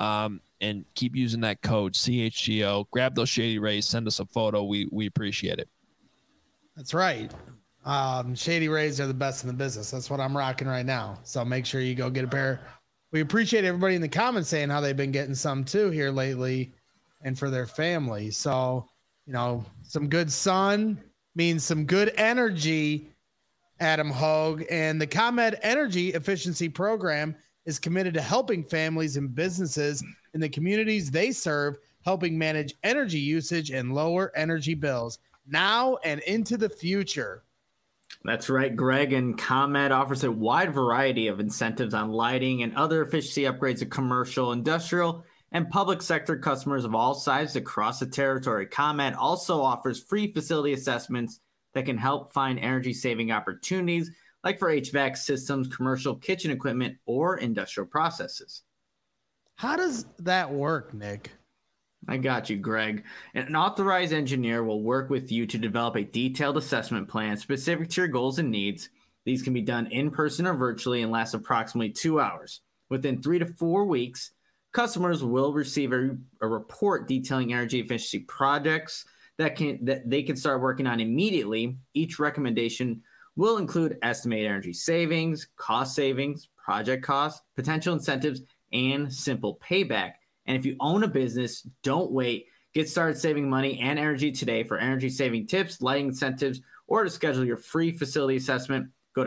And keep using that code CHGO. Grab those Shady Rays. Send us a photo. We appreciate it. That's right. Shady Rays are the best in the business. That's what I'm rocking right now. So make sure you go get a pair. We appreciate everybody in the comments saying how they've been getting some too here lately and for their family. So, some good sun means some good energy, Adam Hogue. And the ComEd Energy Efficiency Program is committed to helping families and businesses in the communities they serve, helping manage energy usage and lower energy bills now and into the future. That's right, Greg. And ComEd offers a wide variety of incentives on lighting and other efficiency upgrades to commercial, industrial, and public sector customers of all sizes across the territory. ComEd also offers free facility assessments that can help find energy-saving opportunities, like for HVAC systems, commercial kitchen equipment, or industrial processes. How does that work, Nick? I got you, Greg. An authorized engineer will work with you to develop a detailed assessment plan specific to your goals and needs. These can be done in person or virtually and last approximately 2 hours. Within 3 to 4 weeks, customers will receive a report detailing energy efficiency projects that they can start working on immediately. Each recommendation will include estimated energy savings, cost savings, project costs, potential incentives, and simple payback. And if you own a business, don't wait. Get started saving money and energy today. For energy saving tips, lighting incentives, or to schedule your free facility assessment, go to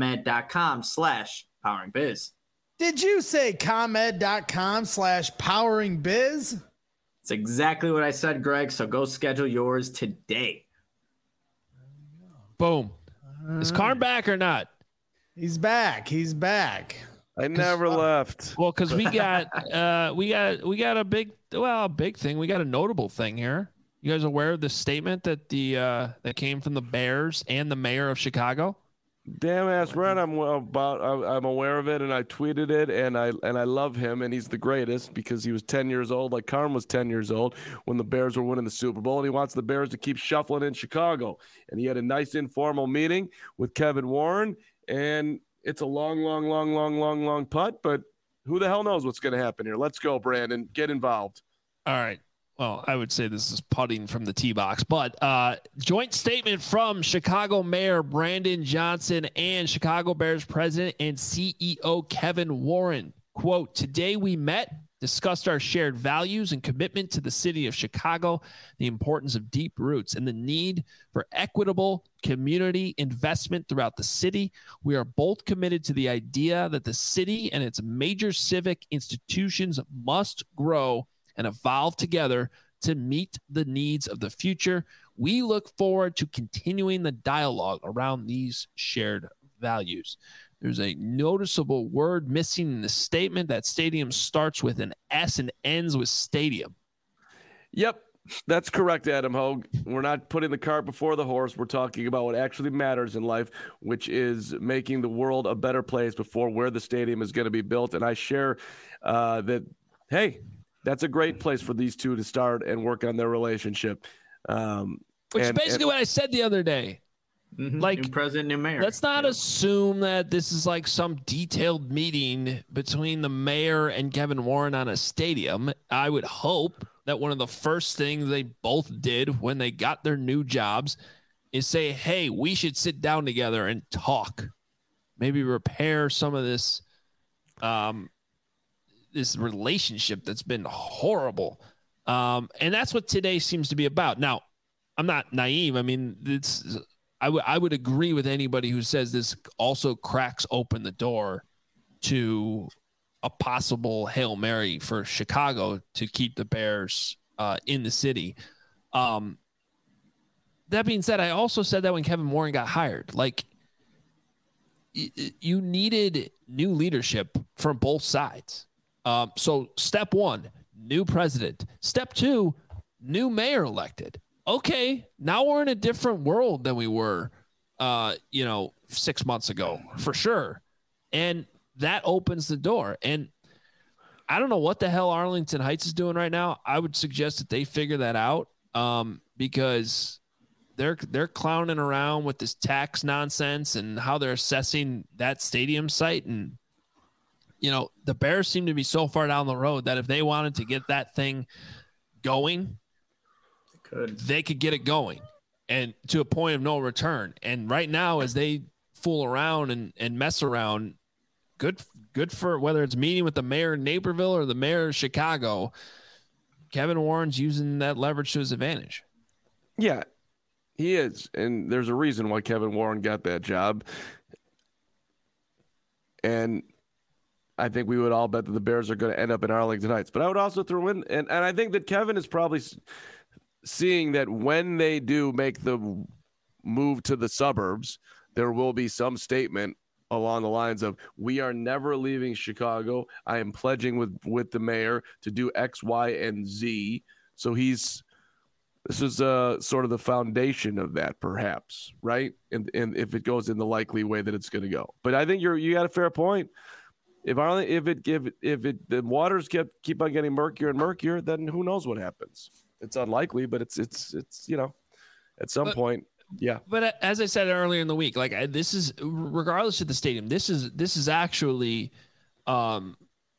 ComEd.com/poweringbiz. Did you say ComEd.com/poweringbiz? It's exactly what I said, Greg. So go schedule yours today. Boom. Is Carm back or not? He's back. I never left. Well, because we got a big thing. We got a notable thing here. You guys aware of the statement that that came from the Bears and the mayor of Chicago? Damn ass right, I'm aware of it, and I tweeted it, and I love him, and he's the greatest because he was 10 years old, like Carm was 10 years old when the Bears were winning the Super Bowl, and he wants the Bears to keep shuffling in Chicago. And he had a nice informal meeting with Kevin Warren, and it's a long putt, but who the hell knows what's going to happen here? Let's go, Brandon. Get involved. All right. Well, I would say this is putting from the tee box, but joint statement from Chicago Mayor Brandon Johnson and Chicago Bears President and CEO Kevin Warren. Quote, "Today we met, discussed our shared values and commitment to the city of Chicago, the importance of deep roots and the need for equitable community investment throughout the city. We are both committed to the idea that the city and its major civic institutions must grow and evolve together to meet the needs of the future. We look forward to continuing the dialogue around these shared values." There's a noticeable word missing in the statement. That stadium starts with an S and ends with stadium. Yep, that's correct, Adam Hogue. We're not putting the cart before the horse. We're talking about what actually matters in life, which is making the world a better place before where the stadium is going to be built. And I share that, hey, that's a great place for these two to start and work on their relationship. Which is basically what I said the other day. Mm-hmm. Like, new president, new mayor. Let's not assume that this is like some detailed meeting between the mayor and Kevin Warren on a stadium. I would hope that one of the first things they both did when they got their new jobs is say, hey, we should sit down together and talk. Maybe repair some of this this relationship that's been horrible. And that's what today seems to be about. Now, I'm not naive. I mean, I would agree with anybody who says this also cracks open the door to a possible Hail Mary for Chicago to keep the Bears in the city. That being said, I also said that when Kevin Warren got hired, like, you needed new leadership from both sides. So step one, new president. Step two, new mayor elected. Okay, now we're in a different world than we were 6 months ago for sure. And that opens the door. And I don't know what the hell Arlington Heights is doing right now. I would suggest that they figure that out because they're clowning around with this tax nonsense and how they're assessing that stadium site. And, the Bears seem to be so far down the road that if they wanted to get that thing going, they could get it going and to a point of no return. And right now, as they fool around and mess around, good for whether it's meeting with the mayor of Naperville or the mayor of Chicago, Kevin Warren's using that leverage to his advantage. Yeah, he is. And there's a reason why Kevin Warren got that job. And I think we would all bet that the Bears are going to end up in Arlington Heights. But I would also throw in, and I think that Kevin is probably seeing that when they do make the move to the suburbs, there will be some statement along the lines of, we are never leaving Chicago. I am pledging with the mayor to do X, Y, and Z. So this is sort of the foundation of that, perhaps, right? And if it goes in the likely way that it's going to go. But I think you got a fair point. If the waters keep on getting murkier and murkier, then who knows what happens? It's unlikely, but it's at some point. Yeah. But as I said earlier in the week, this is regardless of the stadium, this is actually, and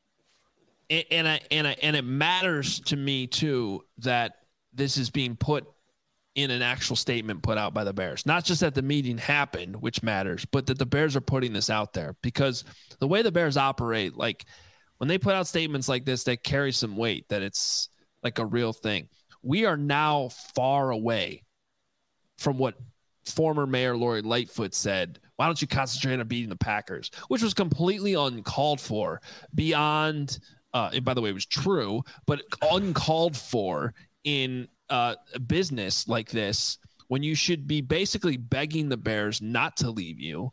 it matters to me too that this is being put in an actual statement put out by the Bears, not just that the meeting happened, which matters, but that the Bears are putting this out there because the way the Bears operate, like when they put out statements like this, that carry some weight, that it's like a real thing. We are now far away from what former Mayor Lori Lightfoot said, why don't you concentrate on beating the Packers, which was completely uncalled for, beyond, and by the way, it was true, but uncalled for in a business like this, when you should be basically begging the Bears not to leave you.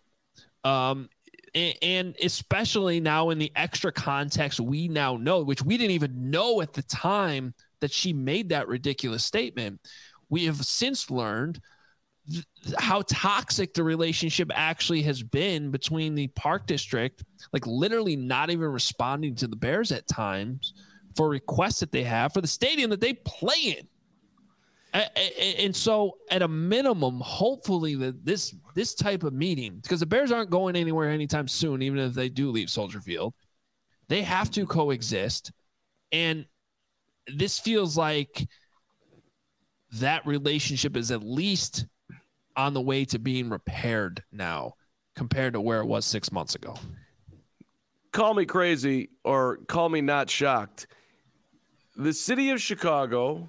And especially now in the extra context we now know, which we didn't even know at the time that she made that ridiculous statement. We have since learned how toxic the relationship actually has been between the Park District, like literally not even responding to the Bears at times for requests that they have for the stadium that they play in. And so at a minimum, hopefully that this type of meeting, because the Bears aren't going anywhere anytime soon, even if they do leave Soldier Field, they have to coexist. And this feels like that relationship is at least on the way to being repaired now compared to where it was 6 months ago. Call me crazy or call me not shocked. The city of Chicago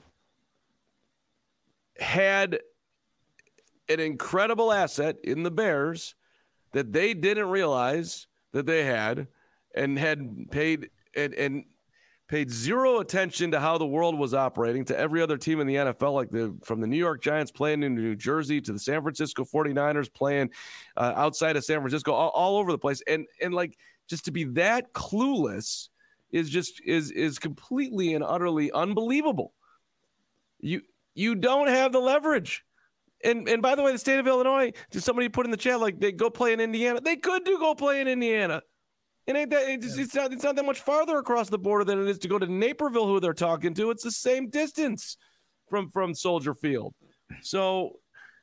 had an incredible asset in the Bears that they didn't realize that they had, and had paid zero attention to how the world was operating, to every other team in the NFL, like from the New York Giants playing in New Jersey to the San Francisco 49ers playing outside of San Francisco, all over the place. And like, just to be that clueless is completely and utterly unbelievable. You don't have the leverage. And by the way, the state of Illinois, just somebody put in the chat, like, they go play in Indiana. They could go play in Indiana. It ain't that. It's not that much farther across the border than it is to go to Naperville, who they're talking to. It's the same distance from Soldier Field. So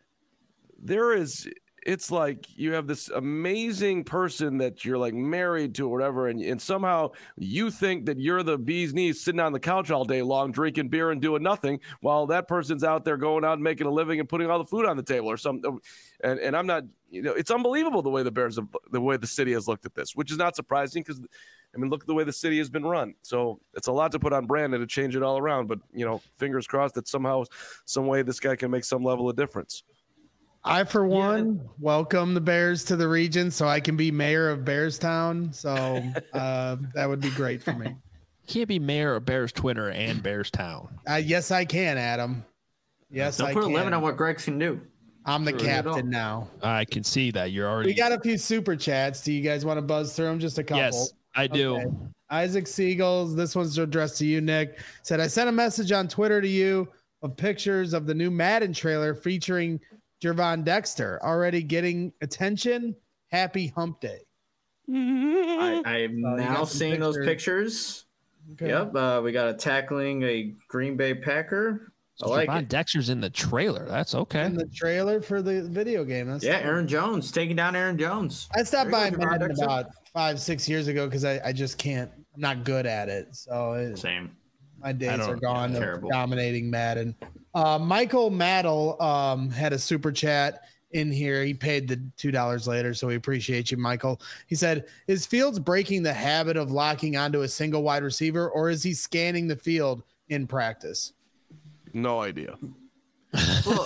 it's like you have this amazing person that you're like married to or whatever, and somehow you think that you're the bee's knees sitting on the couch all day long drinking beer and doing nothing, while that person's out there going out and making a living and putting all the food on the table or something. And I'm not, it's unbelievable the way the way the city has looked at this, which is not surprising because, I mean, look at the way the city has been run. So it's a lot to put on Brandon to change it all around. But, fingers crossed that somehow, some way this guy can make some level of difference. I, for one, welcome the Bears to the region so I can be mayor of Bearstown. So that would be great for me. You can't be mayor of Bears Twitter and Bearstown. Yes, I can, Adam. Yes, I can. Don't put a limit on what Greg can do. I'm the captain now. I can see that. You're already. We got a few super chats. Do you guys want to buzz through them? Just a couple. Yes, I do. Okay. Isaac Siegels, this one's addressed to you, Nick. Said, I sent a message on Twitter to you of pictures of the new Madden trailer featuring Gervon Dexter already getting attention. Happy hump day. I'm now seeing those pictures. Okay. Yep. We got a tackling a Green Bay Packer. So I like it. Dexter's in the trailer. That's okay. In the trailer for the video game. That's Aaron Jones taking down Aaron Jones. I stopped by Madden about 5-6 years ago because I just can't. I'm not good at it. So same. My days are gone of dominating Madden. Michael Maddle had a super chat in here. He paid the $2 later, so we appreciate you, Michael. He said, is Fields breaking the habit of locking onto a single wide receiver, or is he scanning the field in practice? No idea. Well,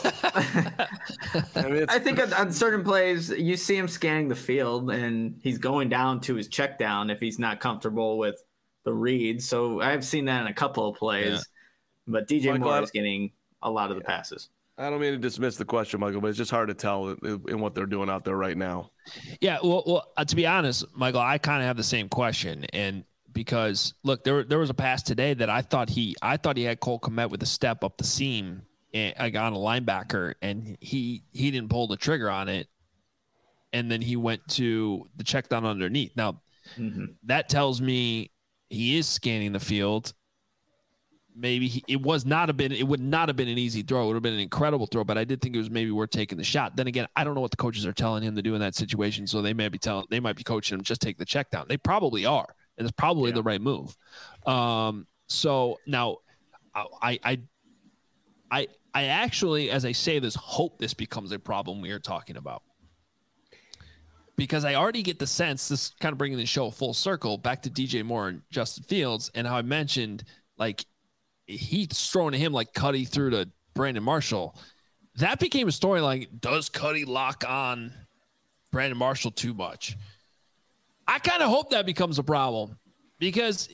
I think on certain plays, you see him scanning the field, and he's going down to his check down if he's not comfortable with the read. So I've seen that in a couple of plays, but DJ Moore is getting a lot of the passes. I don't mean to dismiss the question, Michael, but it's just hard to tell in what they're doing out there right now. Yeah, well, to be honest, Michael, I kind of have the same question, and because look, there was a pass today that I thought he had Cole Kmet with a step up the seam and on a linebacker, and he didn't pull the trigger on it, and then he went to the check down underneath. Now, that tells me he is scanning the field. Maybe it would not have been an easy throw. It would have been an incredible throw, but I did think it was maybe worth taking the shot. Then again, I don't know what the coaches are telling him to do in that situation, so they might be coaching him just take the check down. They probably are, and it's probably the right move. So now, I actually, as I say this, hope this becomes a problem we are talking about, because I already get the sense, this kind of bringing the show full circle back to DJ Moore and Justin Fields, and how I mentioned like he's throwing to him like Cuddy threw to Brandon Marshall. That became a storyline. Does Cuddy lock on Brandon Marshall too much? I kind of hope that becomes a problem, because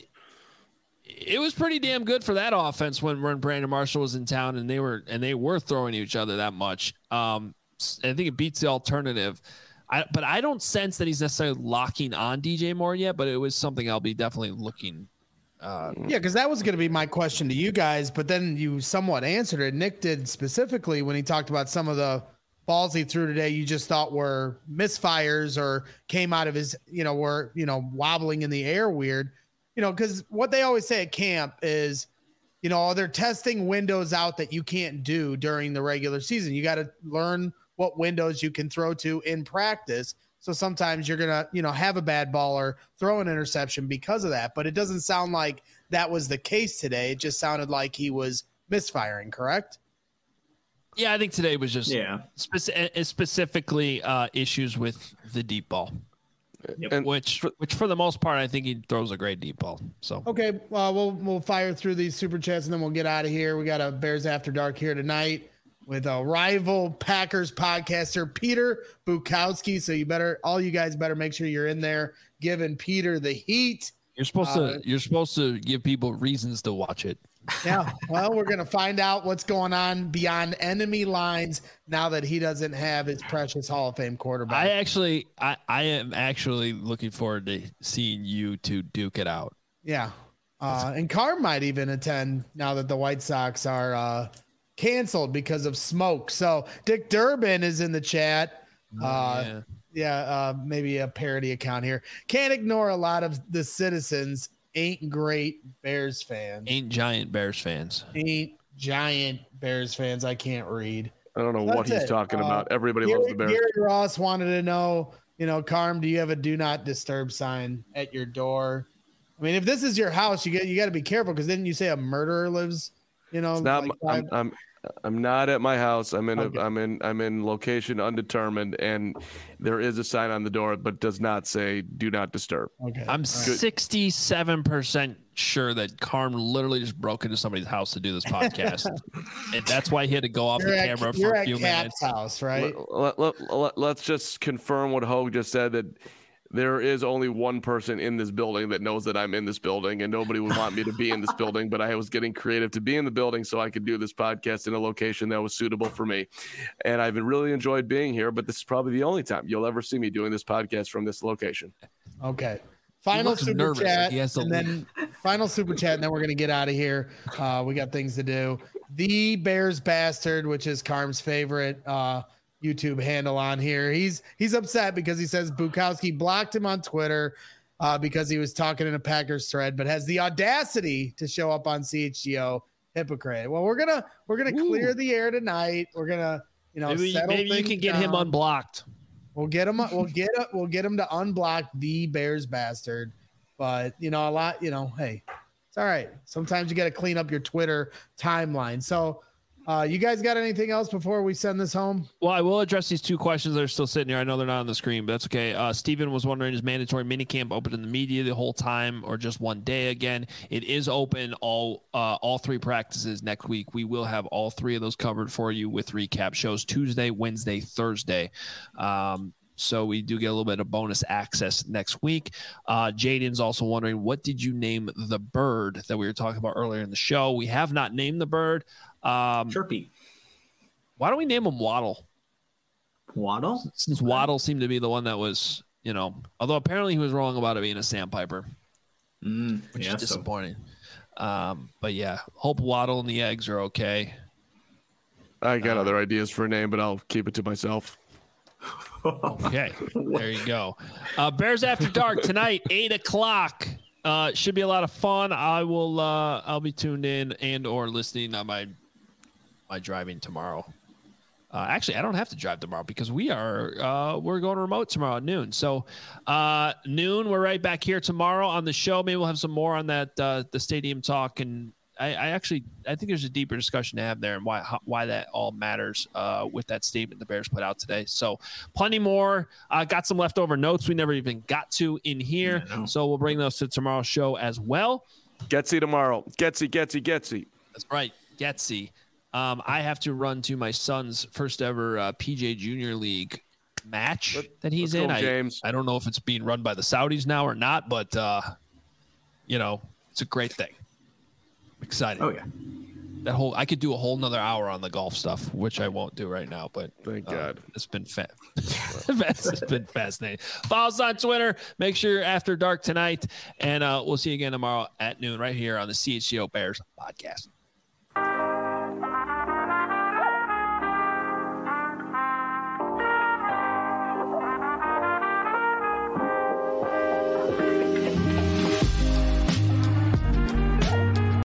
it was pretty damn good for that offense when Brandon Marshall was in town and they were throwing each other that much. I think it beats the alternative. But I don't sense that he's necessarily locking on DJ Moore yet, but it was something I'll be definitely looking. Because that was going to be my question to you guys, but then you somewhat answered it. Nick did specifically when he talked about some of the balls he threw today you just thought were misfires or came out of his, were, wobbling in the air weird, because what they always say at camp is, they're testing windows out that you can't do during the regular season. You got to learn what windows you can throw to in practice. So sometimes you're going to, have a bad ball or throw an interception because of that. But it doesn't sound like that was the case today. It just sounded like he was misfiring, correct? Yeah, I think today was just specifically issues with the deep ball, which for the most part, I think he throws a great deep ball. So okay, we'll fire through these super chats and then we'll get out of here. We got a Bears After Dark here tonight with a rival Packers podcaster, Peter Bukowski. So all you guys better make sure you're in there giving Peter the heat. You're supposed to give people reasons to watch it. Yeah. Well, we're going to find out what's going on beyond enemy lines now that he doesn't have his precious Hall of Fame quarterback. I am actually looking forward to seeing you two duke it out. Yeah. And Carr might even attend now that the White Sox are, canceled because of smoke. So Dick Durbin is in the chat. Maybe a parody account here. Can't ignore a lot of the citizens ain't great Bears fans. Ain't giant Bears fans. I can't read. I don't know what he's talking about. Everybody loves the Bears. Gary Ross wanted to know, Carm, do you have a do not disturb sign at your door? I mean, if this is your house, you got to be careful, because then you say a murderer lives, It's not, I'm not at my house. I'm in location undetermined, and there is a sign on the door, but does not say "Do not disturb." Okay. I'm 67% sure that Carm literally just broke into somebody's house to do this podcast, and that's why he had to go off the camera for a few minutes. House, right? Let's just confirm what Hogue just said, that there is only one person in this building that knows that I'm in this building, and nobody would want me to be in this building, but I was getting creative to be in the building so I could do this podcast in a location that was suitable for me. And I've really enjoyed being here, but this is probably the only time you'll ever see me doing this podcast from this location. Okay. Final super chat, and then we're going to get out of here. We got things to do. The Bears Bastard, which is Carm's favorite YouTube handle on here. He's upset because he says Bukowski blocked him on Twitter because he was talking in a Packers thread, but has the audacity to show up on CHGO. Hypocrite. Well, we're gonna clear the air tonight. We're gonna, maybe you can get him unblocked. We'll get him to unblock the Bears bastard. But hey, it's all right. Sometimes you got to clean up your Twitter timeline. So, you guys got anything else before we send this home? Well, I will address these two questions that are still sitting here. I know they're not on the screen, but that's okay. Steven was wondering, is mandatory minicamp open in the media the whole time or just one day again? It is open all 3 practices next week. We will have all 3 of those covered for you with recap shows Tuesday, Wednesday, Thursday. So we do get a little bit of bonus access next week. Jaden's also wondering, what did you name the bird that we were talking about earlier in the show? We have not named the bird. Chirpy. Why don't we name him Waddle? Waddle? Since Waddle seemed to be the one that was, although apparently he was wrong about it being a sandpiper, which is disappointing. But yeah, hope Waddle and the eggs are okay. I got other ideas for a name, but I'll keep it to myself. Okay, there you go. Bears After Dark tonight, 8:00. Should be a lot of fun. I'll be tuned in and or listening on my driving tomorrow. Actually, I don't have to drive tomorrow because we're going remote tomorrow at noon. So noon, we're right back here tomorrow on the show. Maybe we'll have some more on that the stadium talk, and I think there's a deeper discussion to have there and why that all matters with that statement the Bears put out today. So plenty more. Got some leftover notes we never even got to in here. Yeah, so we'll bring those to tomorrow's show as well. Getsy tomorrow. Getsy. That's right. Getsy. I have to run to my son's first ever PJ Junior League match that he's in. James. I don't know if it's being run by the Saudis now or not, but it's a great thing. Excited. Oh yeah. I could do a whole nother hour on the golf stuff, which I won't do right now, but thank God. It's been it's been fascinating. Follow us on Twitter. Make sure you're After Dark tonight, and we'll see you again tomorrow at noon right here on the CHGO Bears podcast.